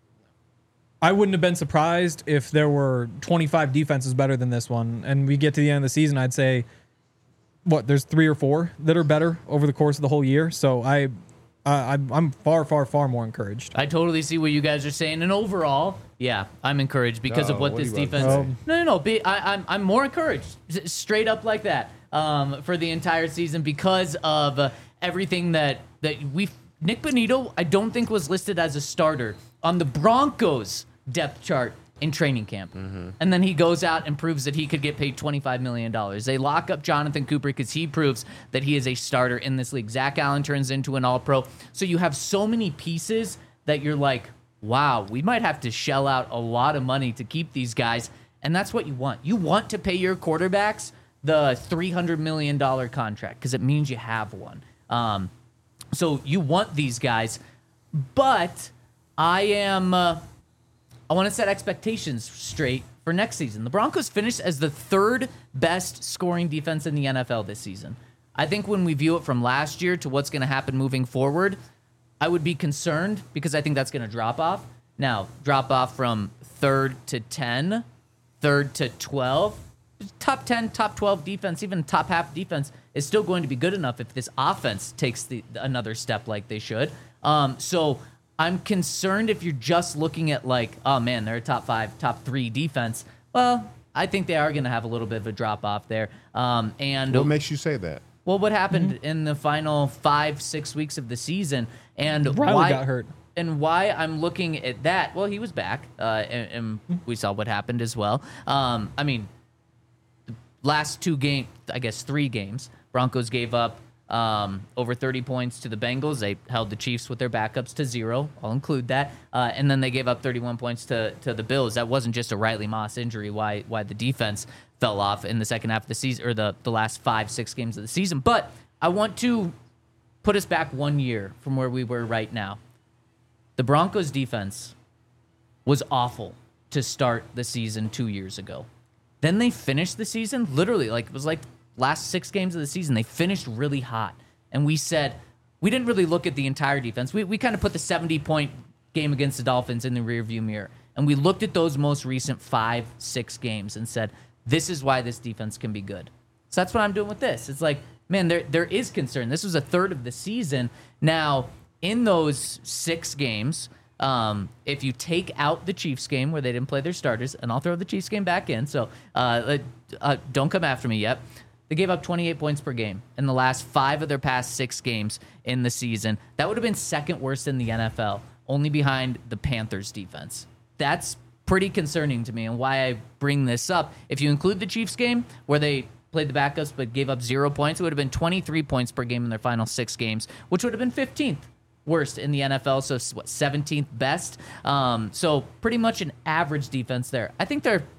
I wouldn't have been surprised if there were 25 defenses better than this one. And we get to the end of the season, I'd say, there's 3 or 4 that are better over the course of the whole year. So I'm far, far, far more encouraged. I totally see what you guys are saying, and overall, yeah, I'm encouraged because of what what this are you about to defense. say? No. I'm more encouraged, straight up like that, for the entire season because of everything that Nick Bonito, I don't think was listed as a starter on the Broncos depth chart in training camp. And then he goes out and proves that he could get paid $25 million. They lock up Jonathan Cooper because he proves that he is a starter in this league. Zach Allen turns into an all-pro. So you have so many pieces that you're like, wow, we might have to shell out a lot of money to keep these guys. And that's what you want. You want to pay your quarterbacks the $300 million contract because it means you have one. So you want these guys. But I want to set expectations straight for next season. The Broncos finished as the third best scoring defense in the NFL this season. I think when we view it from last year to what's going to happen moving forward, I would be concerned because I think that's going to drop off. Now, drop off from 3rd to 10, 3rd to 12. Top 10, top 12 defense, even top half defense is still going to be good enough if this offense takes another step like they should. So I'm concerned if you're just looking at like, oh man, they're a top 5, top 3 defense. Well, I think they are going to have a little bit of a drop off there. And What makes you say that? well, what happened in the final 5-6 weeks of the season, and Riley got hurt. and why I'm looking at that. Well, he was back, and we saw what happened as well. I mean, the last 2 games, I guess 3 games, Broncos gave up over 30 points to the Bengals. They held the Chiefs with their backups to 0. I'll include that. And then they gave up 31 points to the Bills. That wasn't just a Riley Moss injury, why the defense fell off in the second half of the season, or the last 5-6 games of the season. But I want to put us back 1 year from where we were right now. The Broncos defense was awful to start the season 2 years ago. Then they finished the season, literally, like it was like last 6 games of the season, they finished really hot. And we said, we didn't really look at the entire defense. We kind of put the 70-point game against the Dolphins in the rearview mirror. And we looked at those most recent 5-6 games and said, this is why this defense can be good. So that's what I'm doing with this. It's like, man, there is concern. This was a third of the season. Now, in those 6 games, if you take out the Chiefs game where they didn't play their starters, and I'll throw the Chiefs game back in, so don't come after me yet. They gave up 28 points per game in the last 5 of their past 6 games in the season. That would have been second worst in the NFL, only behind the Panthers defense. That's pretty concerning to me, and why I bring this up. If you include the Chiefs game where they played the backups but gave up 0 points, it would have been 23 points per game in their final 6 games, which would have been 15th worst in the NFL, so what, 17th best? So pretty much an average defense there. I think they're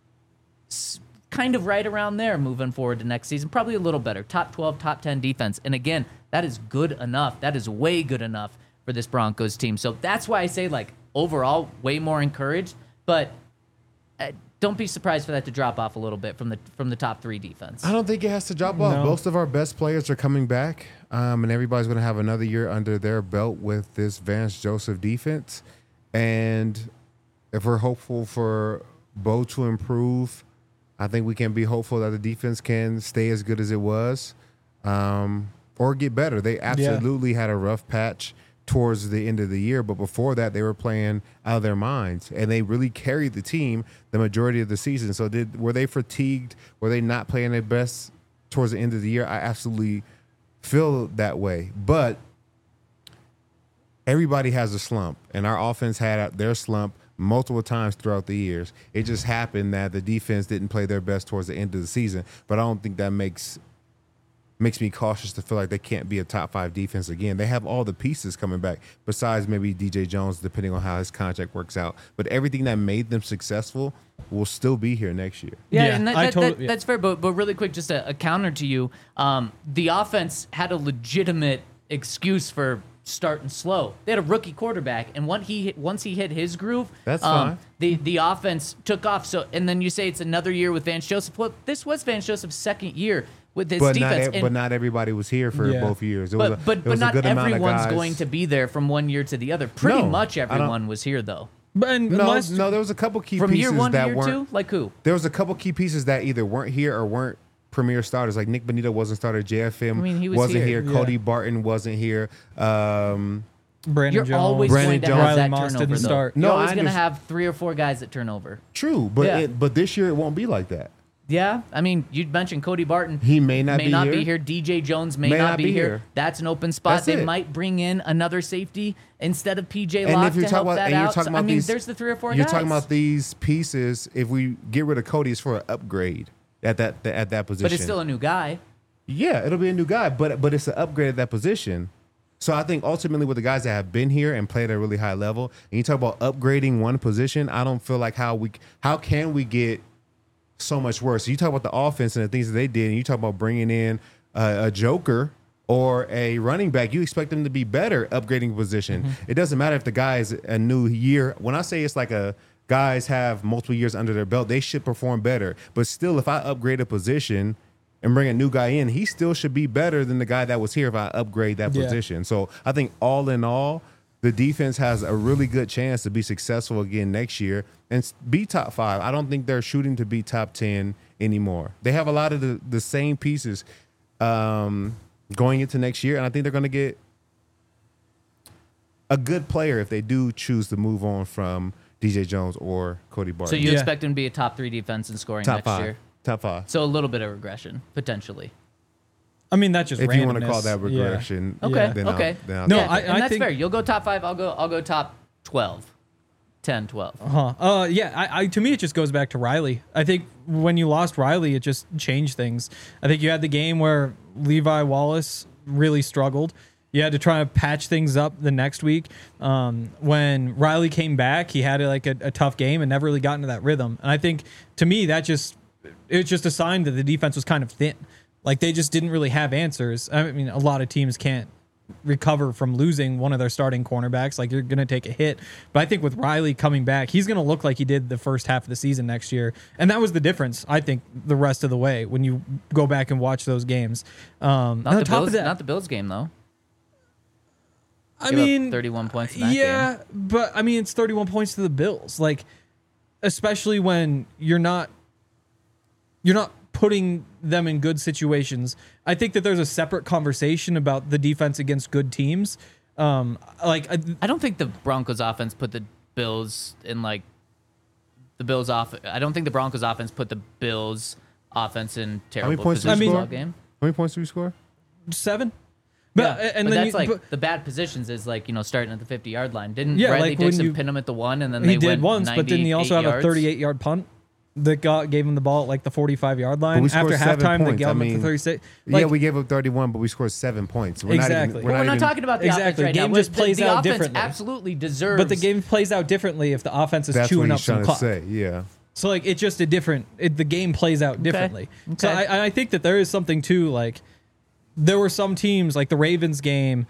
kind of right around there moving forward to next season, probably a little better. Top 12, top 10 defense. And again, that is good enough. That is way good enough for this Broncos team. So that's why I say, like, overall, way more encouraged, but don't be surprised for that to drop off a little bit from the top 3 defense. I don't think it has to drop off. Most of our best players are coming back, and everybody's going to have another year under their belt with this Vance Joseph defense. And if we're hopeful for Bo to improve, I think we can be hopeful that the defense can stay as good as it was, or get better. They absolutely had a rough patch towards the end of the year, but before that they were playing out of their minds, and they really carried the team the majority of the season. So were they fatigued? Were they not playing their best towards the end of the year? I absolutely feel that way, but everybody has a slump, and our offense had their slump multiple times throughout the years. It just happened that the defense didn't play their best towards the end of the season, but I don't think that makes me cautious to feel like they can't be a top 5 defense again. They have all the pieces coming back, besides maybe DJ Jones, depending on how his contract works out. But everything that made them successful will still be here next year. Yeah, and that's fair. But really quick, just a counter to you. The offense had a legitimate excuse for starting slow. They had a rookie quarterback, and once he hit his groove, that's fine. The offense took off. So, and then you say it's another year with Vance Joseph. Well, this was Vance Joseph's second year with his defense. But not everybody was here for both years. But not everyone's going to be there from one year to the other. Pretty much everyone was here, though. But no, there was a couple key from pieces year 1 to that year weren't. 2. Like who? There was a couple key pieces that either weren't here or weren't premier starters. Like Nick Bonito wasn't starter. JFM he wasn't here. here. Cody Barton wasn't here. Brandon You're Jones, always going to have Riley that Moss turnover, didn't though. start. You're No, always I going to understand. have 3 or 4 guys that turn over. True, but Yeah. but this year it won't be like that. Yeah, I mean, you mentioned Cody Barton. He may not be here. here. DJ Jones may not be here. That's an open spot. That's They it. might bring in another safety instead of PJ And Locke if you're to talking help about, that and you're out. talking So, about these, there's the 3 or 4 you're guys. talking about these pieces. If we get rid of Cody, it's for an upgrade at that position. But it's still a new guy. Yeah, it'll be a new guy, but it's an upgrade at that position. So I think ultimately with the guys that have been here and played at a really high level, and you talk about upgrading one position, I don't feel like how can we get so much worse. You talk about the offense and the things that they did, and you talk about bringing in a joker or a running back, you expect them to be better upgrading position. Mm-hmm. It doesn't matter if the guy is a new year. When I say it's like guys have multiple years under their belt, they should perform better. But still, if I upgrade a position and bring a new guy in, he still should be better than the guy that was here if I upgrade that position. So I think all in all, the defense has a really good chance to be successful again next year and be top 5. I don't think they're shooting to be top 10 anymore. They have a lot of the same pieces going into next year, and I think they're going to get a good player if they do choose to move on from DJ Jones or Cody Barton. So you expect them to be a top 3 defense in scoring top next 5. year? Top 5. So a little bit of regression, potentially. I mean, that's just If randomness. you want to call that regression, Okay, then okay. I'll No, take it. And that's think- fair. You'll go top 5. I'll go top 12. 10, 12. Yeah, to me, it just goes back to Riley. I think when you lost Riley, it just changed things. I think you had the game where Levi Wallace really struggled. You had to try to patch things up the next week. When Riley came back, he had a tough game and never really got into that rhythm. And I think, to me, it was just a sign that the defense was kind of thin. Like, they just didn't really have answers. I mean, a lot of teams can't recover from losing one of their starting cornerbacks. Like, you're going to take a hit. But I think with Riley coming back, he's going to look like he did the first half of the season next year. And that was the difference, I think, the rest of the way when you go back and watch those games. Not the Bills game, though. I Give up mean, 31 points in that game. but I mean, it's 31 points to the Bills. Like, especially when you're not putting them in good situations. I think that there's a separate conversation about the defense against good teams. I don't think the Broncos offense put the Bills in I don't think the Broncos offense put the Bills offense in terrible points did positions we all score? game. How many points do we score? 7. But And that's then the bad positions is starting at the 50-yard line. Didn't Yeah, Bradley like when Dixon you- pin him at the 1 and then he they did went once, but didn't he also have 98 a yards? 38-yard punt that gave him the ball at the 45-yard But line? we scored After 7 halftime, they points. gave him I at the mean, 36. We gave up 31, but we scored 7 points. Exactly. We're not talking about the Exactly. offense right Game now. just plays the out offense differently. absolutely deserves. But the game plays out differently if the offense is That's chewing what up he's some trying to clock. say. Yeah. So the game plays out differently. So Okay. I think that there is something too. Like, there were some teams like the Ravens game.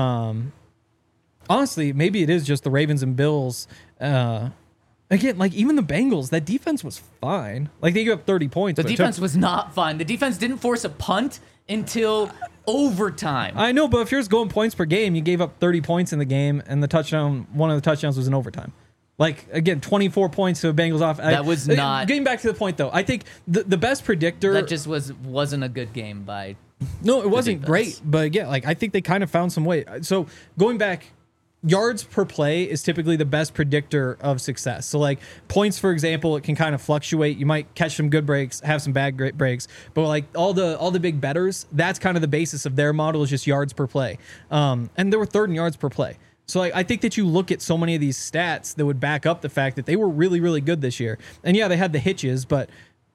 Honestly, maybe it is just the Ravens and Bills. Again, like even the Bengals, that defense was fine. Like they gave up 30 points. The but it defense took- was not fun. The defense didn't force a punt until overtime. I know, but if you're just going points per game, you gave up 30 points in the game, and one of the touchdowns was in overtime. Like, again, 24 points to a Bengals off. That was not- Getting back to the point, though, I think the best predictor. that just wasn't a good game by. No, it wasn't defense. great, but yeah, like I think they kind of found some way. So going back, yards per play is typically the best predictor of success. So like points, for example, it can kind of fluctuate. You might catch some good breaks, have some bad great breaks, but like all the big bettors, that's kind of the basis of their model is just yards per play. And there were third in yards per play. So I think that you look at so many of these stats that would back up the fact that they were really, really good this year. And yeah, they had the hitches, but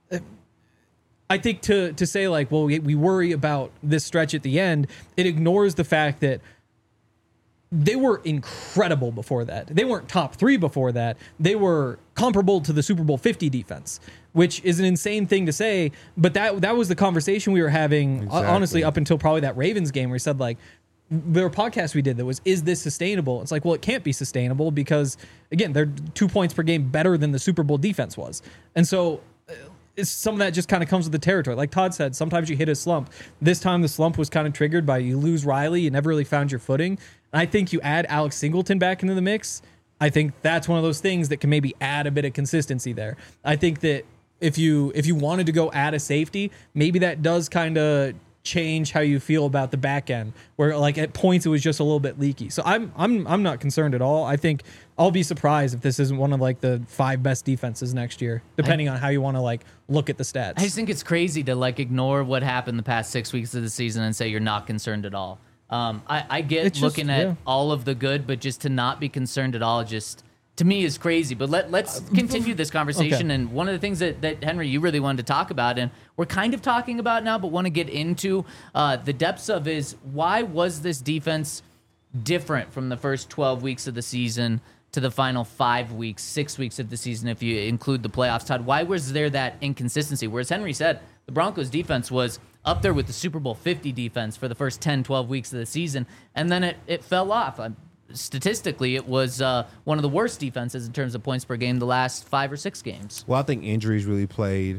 I think to say like, well, we worry about this stretch at the end, it ignores the fact that they were incredible before that. They weren't top 3 before that. They were comparable to the Super Bowl 50 defense, which is an insane thing to say. But that was the conversation we were having, honestly, up until probably that Ravens game where we said like, there were podcasts we did that was, is this sustainable? It's like, well, it can't be sustainable because, again, they're 2 points per game better than the Super Bowl defense was. And so some of that just kind of comes with the territory. Like Todd said, sometimes you hit a slump. This time the slump was kind of triggered by you lose Riley. You never really found your footing. And I think you add Alex Singleton back into the mix. I think that's one of those things that can maybe add a bit of consistency there. I think that if you wanted to go add a safety, maybe that does kind of change how you feel about the back end, where like at points it was just a little bit leaky. So I'm not concerned at all. I think I'll be surprised if this isn't one of like the 5 best defenses next year, depending on how you want to like look at the stats. I just think it's crazy to like ignore what happened the past 6 weeks of the season and say you're not concerned at all. I get It's just- looking at yeah. all of the good, but just to not be concerned at all, just to me is crazy. But let's continue this conversation. Okay. And one of the things that Henry, you really wanted to talk about, and we're kind of talking about now, but want to get into the depths of, is why was this defense different from the first 12 weeks of the season to the final 5 weeks, 6 weeks of the season, if you include the playoffs? Todd, why was there that inconsistency? Whereas Henry said, the Broncos defense was up there with the Super Bowl 50 defense for the first 10, 12 weeks of the season, and then it fell off. Statistically, it was one of the worst defenses in terms of points per game the last 5 or 6 games. Well, I think injuries really played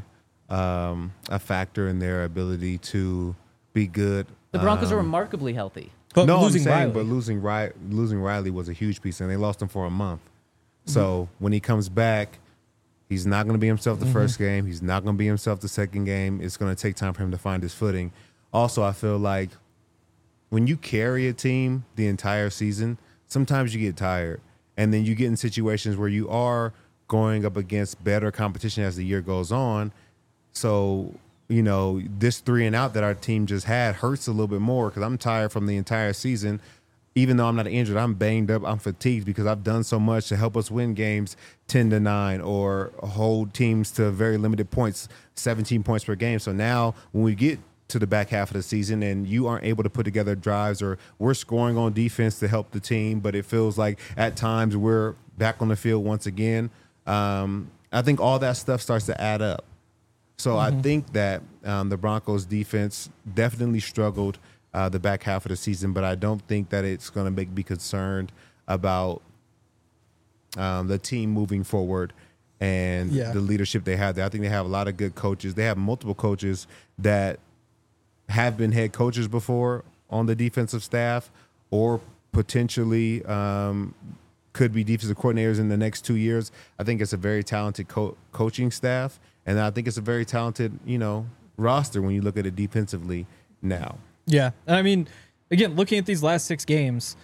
a factor in their ability to be good. The Broncos are remarkably healthy. But No, losing I'm saying, Riley. but losing Riley was a huge piece, and they lost him for a month. So when he comes back, he's not going to be himself the first game. He's not going to be himself the second game. It's going to take time for him to find his footing. Also, I feel like when you carry a team the entire season, sometimes you get tired, and then you get in situations where you are going up against better competition as the year goes on. So, you know, this 3 and out that our team just had hurts a little bit more because I'm tired from the entire season. Even though I'm not injured, I'm banged up, I'm fatigued because I've done so much to help us win games 10-9 or hold teams to very limited points, 17 points per game. So now when we get to the back half of the season and you aren't able to put together drives, or we're scoring on defense to help the team, but it feels like at times we're back on the field once again, I think all that stuff starts to add up. So I think that the Broncos defense definitely struggled the back half of the season, but I don't think that it's going to make me concerned about the team moving forward and the leadership they have there. I think they have a lot of good coaches. They have multiple coaches that have been head coaches before on the defensive staff, or potentially could be defensive coordinators in the next 2 years. I think it's a very talented coaching staff, and I think it's a very talented, roster when you look at it defensively now. Yeah. And I mean, again, looking at these last 6 games,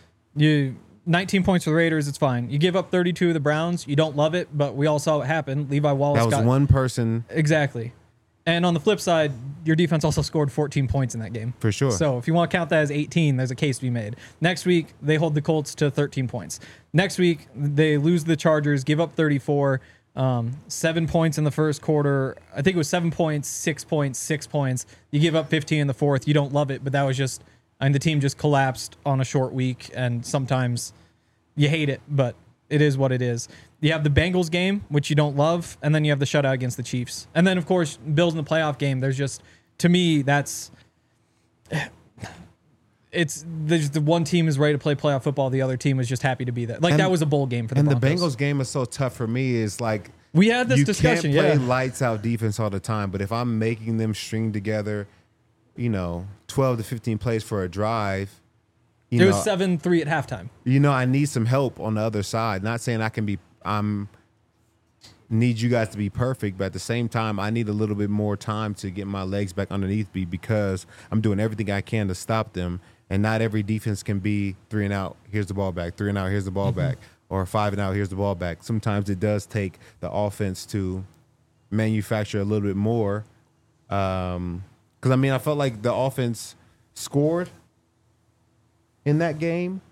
19 points for the Raiders, it's fine. You give up 32 to the Browns, you don't love it, but we all saw what happened. Levi Wallace That was one person. Exactly. And on the flip side, your defense also scored 14 points in that game. For sure. So if you want to count that as 18, there's a case to be made. Next week, they hold the Colts to 13 points. Next week, they lose the Chargers, give up 34, 7 points in the first quarter. I think it was 7 points, 6 points, 6 points. You give up 15 in the fourth. You don't love it, but that was just, the team just collapsed on a short week, and sometimes you hate it, but it is what it is. You have the Bengals game, which you don't love, and then you have the shutout against the Chiefs. And then, of course, Bills in the playoff game. There's just, to me, there's the one team is ready to play playoff football. The other team is just happy to be there. Like, that was a bowl game for the Broncos. And the Bengals game is so tough for me. Is like, we had this discussion. You can't play lights out defense all the time, but if I'm making them string together, 12 to 15 plays for a drive, it was 7-3 at halftime. I need some help on the other side. Not saying need you guys to be perfect, but at the same time, I need a little bit more time to get my legs back underneath me because I'm doing everything I can to stop them. And not every defense can be 3 and out, here's the ball back, 3 and out, here's the ball back, or 5 and out, here's the ball back. Sometimes it does take the offense to manufacture a little bit more. Because, I felt like the offense scored in that game,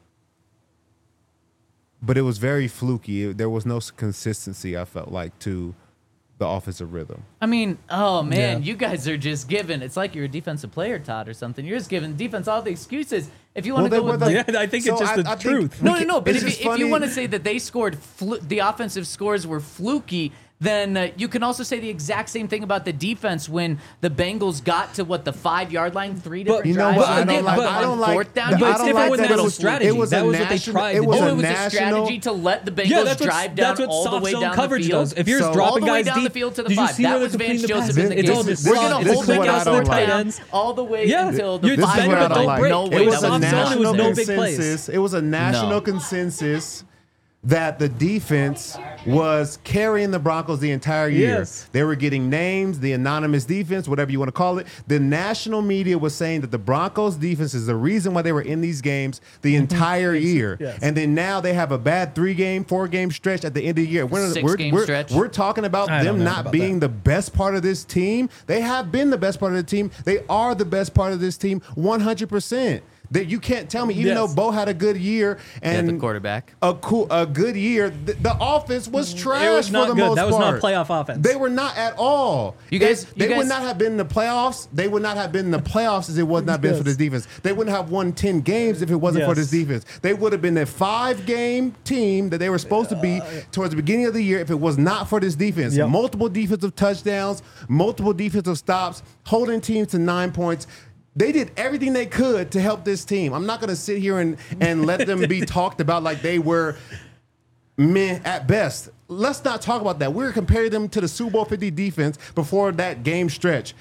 but it was very fluky. There was no consistency, I felt like, to the offensive rhythm. Oh, man, Yeah. you guys are just giving, it's like you're a defensive player, Todd, or something. You're just giving defense all the excuses. If you want to go with Yeah, I think it's just the truth. No, but It's if just you funny. want to say that they scored, the offensive scores were fluky, then you can also say the exact same thing about the defense when the Bengals got to, the 5-yard line, 3 different You know drives. what? and I they don't like. had I don't one like. fourth down. But You it's don't different like when that that was little strategy. It was That a was what they national. tried It to was do. Oh, a it was a national. strategy to let the Bengals Yeah, that's drive down what all the soft way zone down coverage the field. does. If you're So- just dropping all the way guys down the deep, field to the did you 5. see That where was they're Vance completing the Joseph passes? in the It's all game. just We're slot. going It's to hold quick Bengals outs to fourth the tight down ends. all the way Yeah. until the You're just 5 banging yard up, don't line. break. No It way. was that soft zone, national it was no big consensus. plays. It was a national No. consensus that the defense was carrying the Broncos the entire year. Yes. They were getting names, the anonymous defense, whatever you want to call it. The national media was saying that the Broncos defense is the reason why they were in these games the entire year. Yes. And then now they have a bad 4-game stretch at the end of the year. Six-game stretch. We're talking about I don't them know not about being that. the best part of this team. They have been the best part of the team. They are the best part of this team 100%. That you can't tell me, even Yes. though Bo had a good year And and the quarterback. a good year, the offense was trash It was not for the good. most That was part. not playoff offense. They were not at all. You guys- they you would guys- not have been in the playoffs. They would not have been in the playoffs if it was not been for this defense. They wouldn't have won 10 games if it wasn't for this Yes. defense. They would have been a 5-game team that they were supposed to be towards the beginning of the year if it was not for this defense. Yep. Multiple defensive touchdowns, multiple defensive stops, holding teams to 9 points. They did everything they could to help this team. I'm not going to sit here and let them be talked about like they were meh at best. Let's not talk about that. We're comparing them to the Super Bowl 50 defense before that game stretch.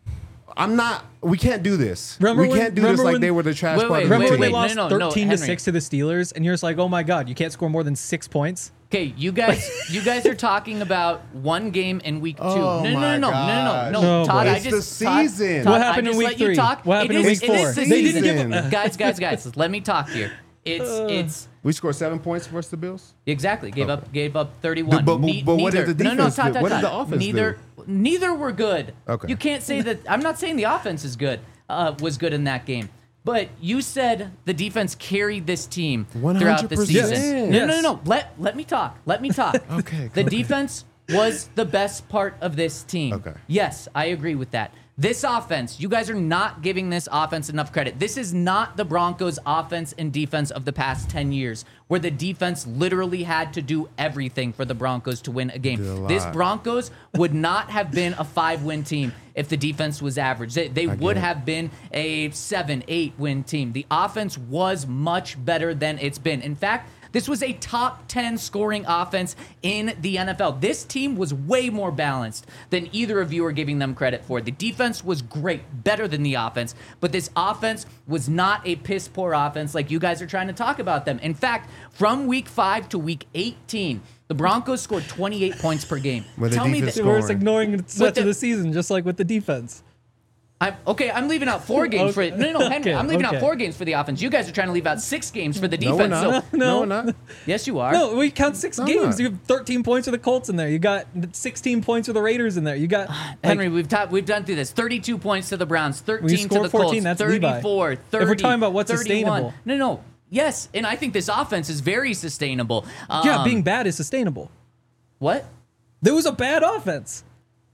We can't do this. We can't do this like they were the trash part of the Remember when team. they lost no, 13 to Henry. 6 to the Steelers, and you're just like, oh my God, you can't score more than 6 points? Okay, you guys are talking about one game in week 2. Oh no, my no, gosh. No, Todd, boy. I It's just the Todd- season. Todd, What happened I in just week let you 3? talk. What happened It in is- week it 4? is the They didn't season. give Guys, let me talk here. It's We scored 7 points versus the Bills. exactly gave up 31. But what did Neither- the no, defense Todd, do? What did Todd. the offense Neither were good. Okay. You can't say that. I'm not saying the offense is good. Was good in that game. But you said the defense carried this team throughout the 100%. season. Yes. No. Let me talk. Let me talk. Okay, The go ahead. defense was the best part of this team. Okay. Yes, I agree with that. This offense, you guys are not giving this offense enough credit. This is not the Broncos' offense and defense of the past 10 years, where the defense literally had to do everything for the Broncos to win a Did a game. lot. This Broncos would not have been a 5-win team if the defense was average. They would it. have been a 7-8-win team. The offense was much better than it's been. In fact, this was a top 10 scoring offense in the NFL. This team was way more balanced than either of you are giving them credit for. The defense was great, better than the offense, but this offense was not a piss poor offense like you guys are trying to talk about them. In fact, from week 5 to week 18, the Broncos scored 28 points per game. With the Tell me defense that. We're just Scoring. ignoring the stretch the- of the season, just like with the defense. I'm leaving out 4 games for it. No, Henry. Okay, I'm leaving out okay. 4 games for the offense. You guys are trying to leave out 6 games for the No, defense. we're not. So, No, we're not. yes, you are. No, we count 6 I'm games. not. You have 13 points for the Colts in there. You got 16 points for the Raiders in there. You got Henry, we've done through this. 32 points to the Browns, 13 to scored the 14, Colts, that's Levi. 34, 30. If we're talking about what's 31. sustainable. No. Yes, and I think this offense is very sustainable. yeah, being bad is sustainable. What? There was a bad offense.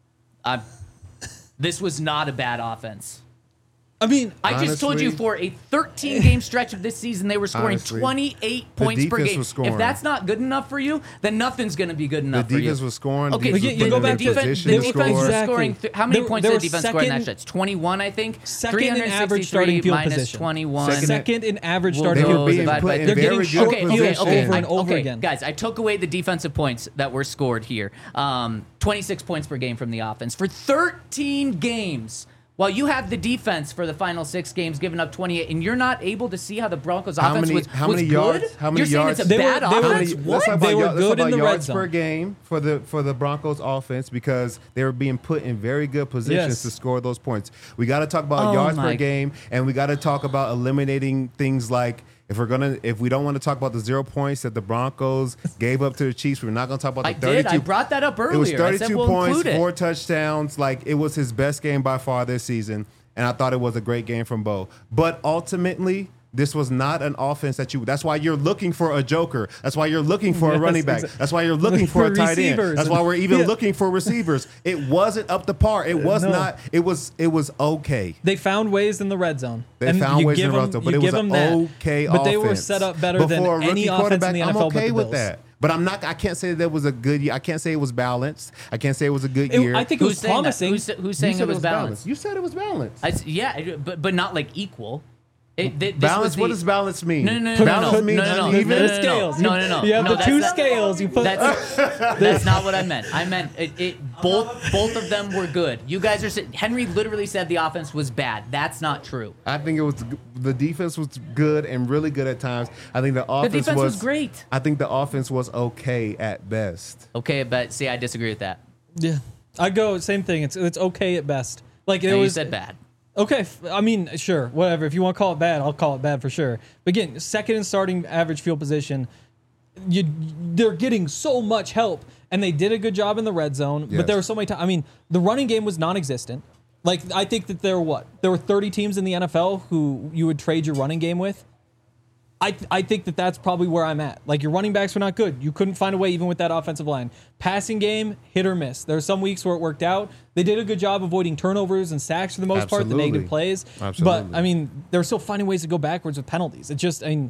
This was not a bad offense. I mean, I just told you Honestly- for a 13-game stretch of this season, they were scoring Honestly, 28 points per defense game. was scoring. If that's not good enough for you, then nothing's going to be good The enough for you. defense was scoring. Okay, defense you was go putting them back in to the position the to defense was score. scoring. How many They- points they did were the defense score in that second- stretch? 21, I think. second in average 363 starting field minus position. 21. Second in average We'll starting go field being position. divide put by in They're very getting good short position. over and over again. Guys, I took away the defensive points that were scored here. 26 points per game from the offense for 13 games. While you have the defense for the final 6 games giving up 28, and you're not able to see how the Broncos offense was many good? yards? How many You're saying yards? it's a They were- bad they were- offense? how many- What? They were let's good talk about in the red yards zone. per game for the Broncos offense because they were being put in very good positions Yes. to score those points. We got to talk about Oh yards my- per game, and we got to talk about eliminating things like if we don't want to talk about the 0 points that the Broncos gave up to the Chiefs, we're not going to talk about the I 32. did. I brought that up earlier. It was I 32 said we'll points, include it. 4 touchdowns. Like it was his best game by far this season, and I thought it was a great game from Bo. But ultimately, this was not an offense that you. That's why you're looking for a joker. That's why you're looking for a Yes, running back. exactly. That's why you're looking for a For tight end. receivers. That's why we're even Yeah. looking for receivers. It wasn't up to par. It was No. not. It was okay. They found ways in the red zone. They And found you ways in give the red them- zone, but you it was give an them that. okay But offense. they were set up better than Before a any rookie offense in the quarterback, NFL I'm okay but the with Bills. that. But I'm not. I can't say that was a good year. I can't say it was balanced. I can't say it was a good It- year. I think it Who's was saying that? promising. Who's You saying said it was balanced? You said it was balanced. Yeah, but not like equal. Balance. What does balance mean? No. Balance means uneven? Scales. No. You have the that's two not- scales. You put. That's not what I meant. I meant both of them were good. You guys are saying Henry literally said the offense was bad. That's not true. I think it was the defense was good and really good at times. I think the offense defense was great. I think the offense was okay at best. Okay, but see, I disagree with that. Yeah, I go same thing. It's okay at best. Like it No, you was. said bad. Okay, I mean, sure, whatever. If you want to call it bad, I'll call it bad for sure. But again, second and starting average field position, they're getting so much help, and they did a good job in the red zone. Yes. But there were so many times. I mean, the running game was non-existent. Like I think that there were 30 teams in the NFL who you would trade your running game with. I think that that's probably where I'm at. Like, your running backs were not good. You couldn't find a way even with that offensive line. Passing game, hit or miss. There were some weeks where it worked out. They did a good job avoiding turnovers and sacks for the most part, the Absolutely. negative plays. Absolutely. But, I mean, they were still finding ways to go backwards with penalties. It just, I mean,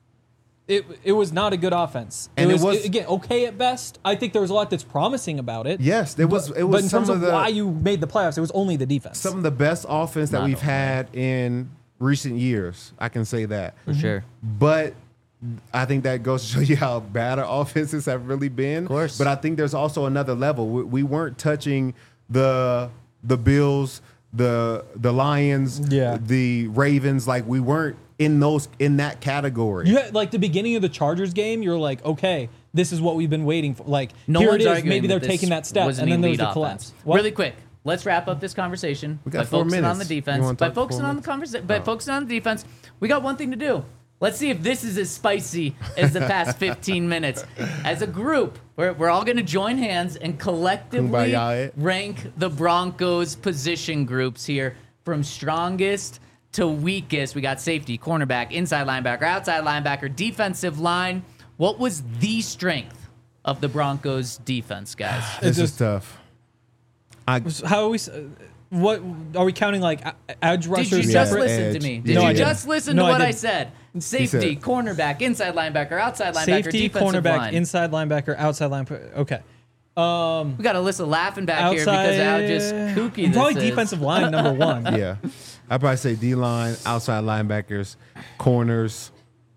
it was not a good offense. And it it was, was- again, okay at best. I think there was a lot that's promising about it. Yes, it was. It But was in some terms of of the why you made the playoffs, it was only the defense. some of the best offense that Not we've only. had in recent years. I can say that. For sure. But I think that goes to show you how bad our offenses have really been. Of course. But I think there's also another level. We weren't touching the Bills, the Lions, Yeah. the Ravens. Like, we weren't in that category. You had, like, the beginning of the Chargers game, you're like, okay, this is what we've been waiting for. Like, No here it one's is. arguing Maybe they're that this taking that step, was and an then there's elite the collapse. offense. What? Really quick, let's wrap up this conversation We got by 4 focusing on the minutes. You defense. wanna By talk 4 focusing on the minutes? conversation, by focusing on the defense, we got one thing to do. Let's see if this is as spicy as the past 15 minutes. As a group, we're all going to join hands and collectively Kumbaya. rank the Broncos position groups here from strongest to weakest. We got safety, cornerback, inside linebacker, outside linebacker, defensive line. What was the strength of the Broncos defense, guys? This is just- tough. How are we? What are we counting? Like edge Did rushers? you just separate? listen to edge. me? Did No, you I just didn't. listen No, to I what I didn't. said? Safety, said- cornerback, inside linebacker, outside linebacker, Safety, defensive cornerback, line. inside linebacker, outside linebacker. Okay. We got Alyssa laughing back here because of how just kooky this Probably is. defensive line number one. Yeah. I'd probably say D-line, outside linebackers, corners,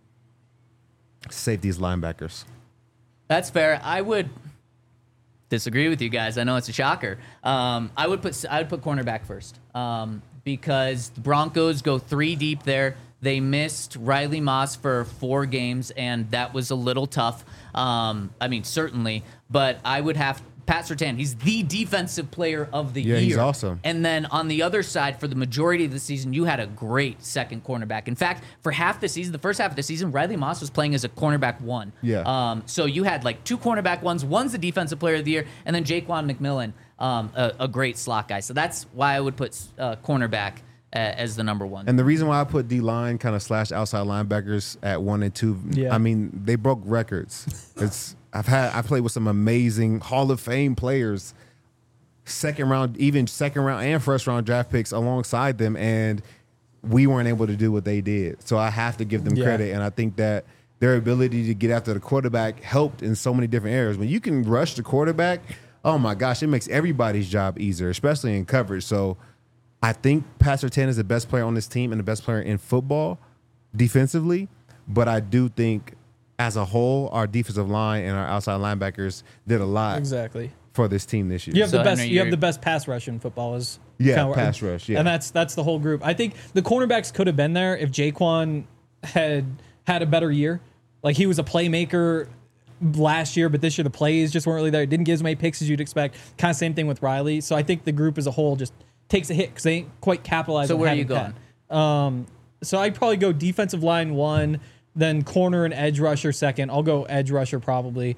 safeties, linebackers. That's fair. I would disagree with you guys. I know it's a shocker. I would put cornerback first because the Broncos go 3 deep there. They missed Riley Moss for 4 games, and that was a little tough. I mean, certainly, but I would have Pat Surtain. He's the defensive player of the year. Yeah, he's awesome. And then on the other side, for the majority of the season, you had a great second cornerback. In fact, for half the season, the first half of the season, Riley Moss was playing as a cornerback 1. Yeah. So you had like 2 cornerback ones. One's the defensive player of the year, and then Jaquan McMillan, a great slot guy. So that's why I would put cornerback as the number 1. And the reason why I put D-line kind of / outside linebackers at 1 and 2, Yeah. I mean, they broke records. I played with some amazing Hall of Fame players, second round and first round draft picks alongside them, and we weren't able to do what they did. So I have to give them Yeah. credit, and I think that their ability to get after the quarterback helped in so many different areas. When you can rush the quarterback, oh my gosh, it makes everybody's job easier, especially in coverage. So I think Pat Surtain is the best player on this team and the best player in football defensively, but I do think as a whole, our defensive line and our outside linebackers did a lot Exactly. for this team this year. You have So, the best. Henry, You have you're- the best pass rush in football. Is Yeah, kinda pass rush, yeah. and that's the whole group. I think the cornerbacks could have been there if Jaquan had a better year. Like, he was a playmaker last year, but this year the plays just weren't really there. Didn't get as many picks as you'd expect. Kind of same thing with Riley. So I think the group as a whole just takes a hit because they ain't quite capitalized. So on where are having you going? Pat. So I'd probably go defensive line 1, then corner and edge rusher 2nd. I'll go edge rusher probably.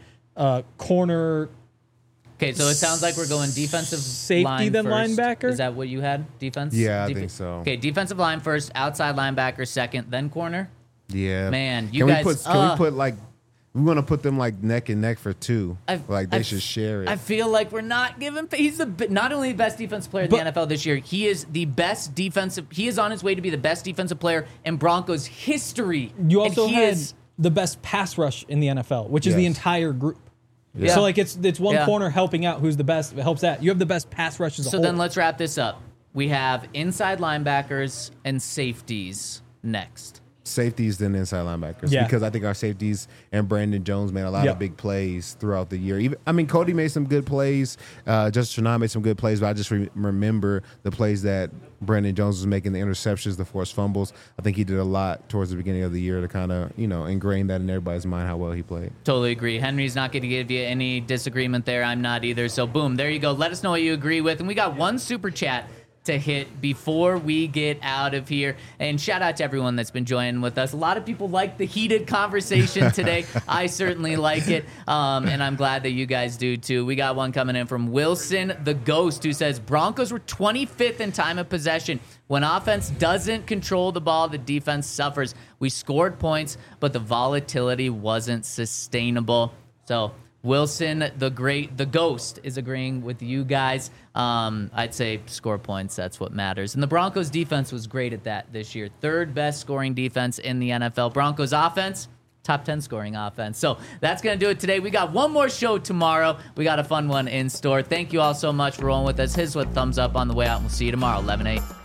Corner. Okay, so it sounds like we're going defensive Safety, line then first. linebacker? Is that what you had? Defense? Yeah, I think so. Okay, defensive line first, outside linebacker second, then corner. Yeah, Man, you can guys- we put like we want to put them like neck and neck for 2? Like they I- should share it. I feel like we're not giving. He's not only the best defensive player in the NFL this year. He is the best defensive. He is on his way to be the best defensive player in Broncos history. You And also he had is- the best pass rush in the NFL, which is the Yes. entire group. Yeah. So like it's one Yeah. corner helping out who's the best. It helps that. You have the best pass rush as a So whole. then let's wrap this up. We have inside linebackers and safeties. next? Safeties than inside linebackers, Yeah. because I think our safeties and Brandon Jones made a lot Yep. of big plays throughout the year. Cody made some good plays. Justice Trinai made some good plays, but I just remember the plays that Brandon Jones was making, the interceptions, the forced fumbles. I think he did a lot towards the beginning of the year to kind of, ingrain that in everybody's mind how well he played. Totally agree. Henry's not going to give you any disagreement there. I'm not either. So, boom, there you go. Let us know what you agree with. And we got one super chat to hit before we get out of here. And shout out to everyone that's been joining with us. A lot of people like the heated conversation today. I certainly like it. And I'm glad that you guys do too. We got one coming in from Wilson the Ghost, who says Broncos were 25th in time of possession. When offense doesn't control the ball, the defense suffers. We scored points, but the volatility wasn't sustainable. So Wilson, the Ghost, is agreeing with you guys. I'd say score points. That's what matters. And the Broncos defense was great at that this year. Third best scoring defense in the NFL. Broncos offense, top 10 scoring offense. So that's going to do it today. We got one more show tomorrow. We got a fun one in store. Thank you all so much for rolling with us. Hit us with a thumbs up on the way out, and we'll see you tomorrow, 11/8.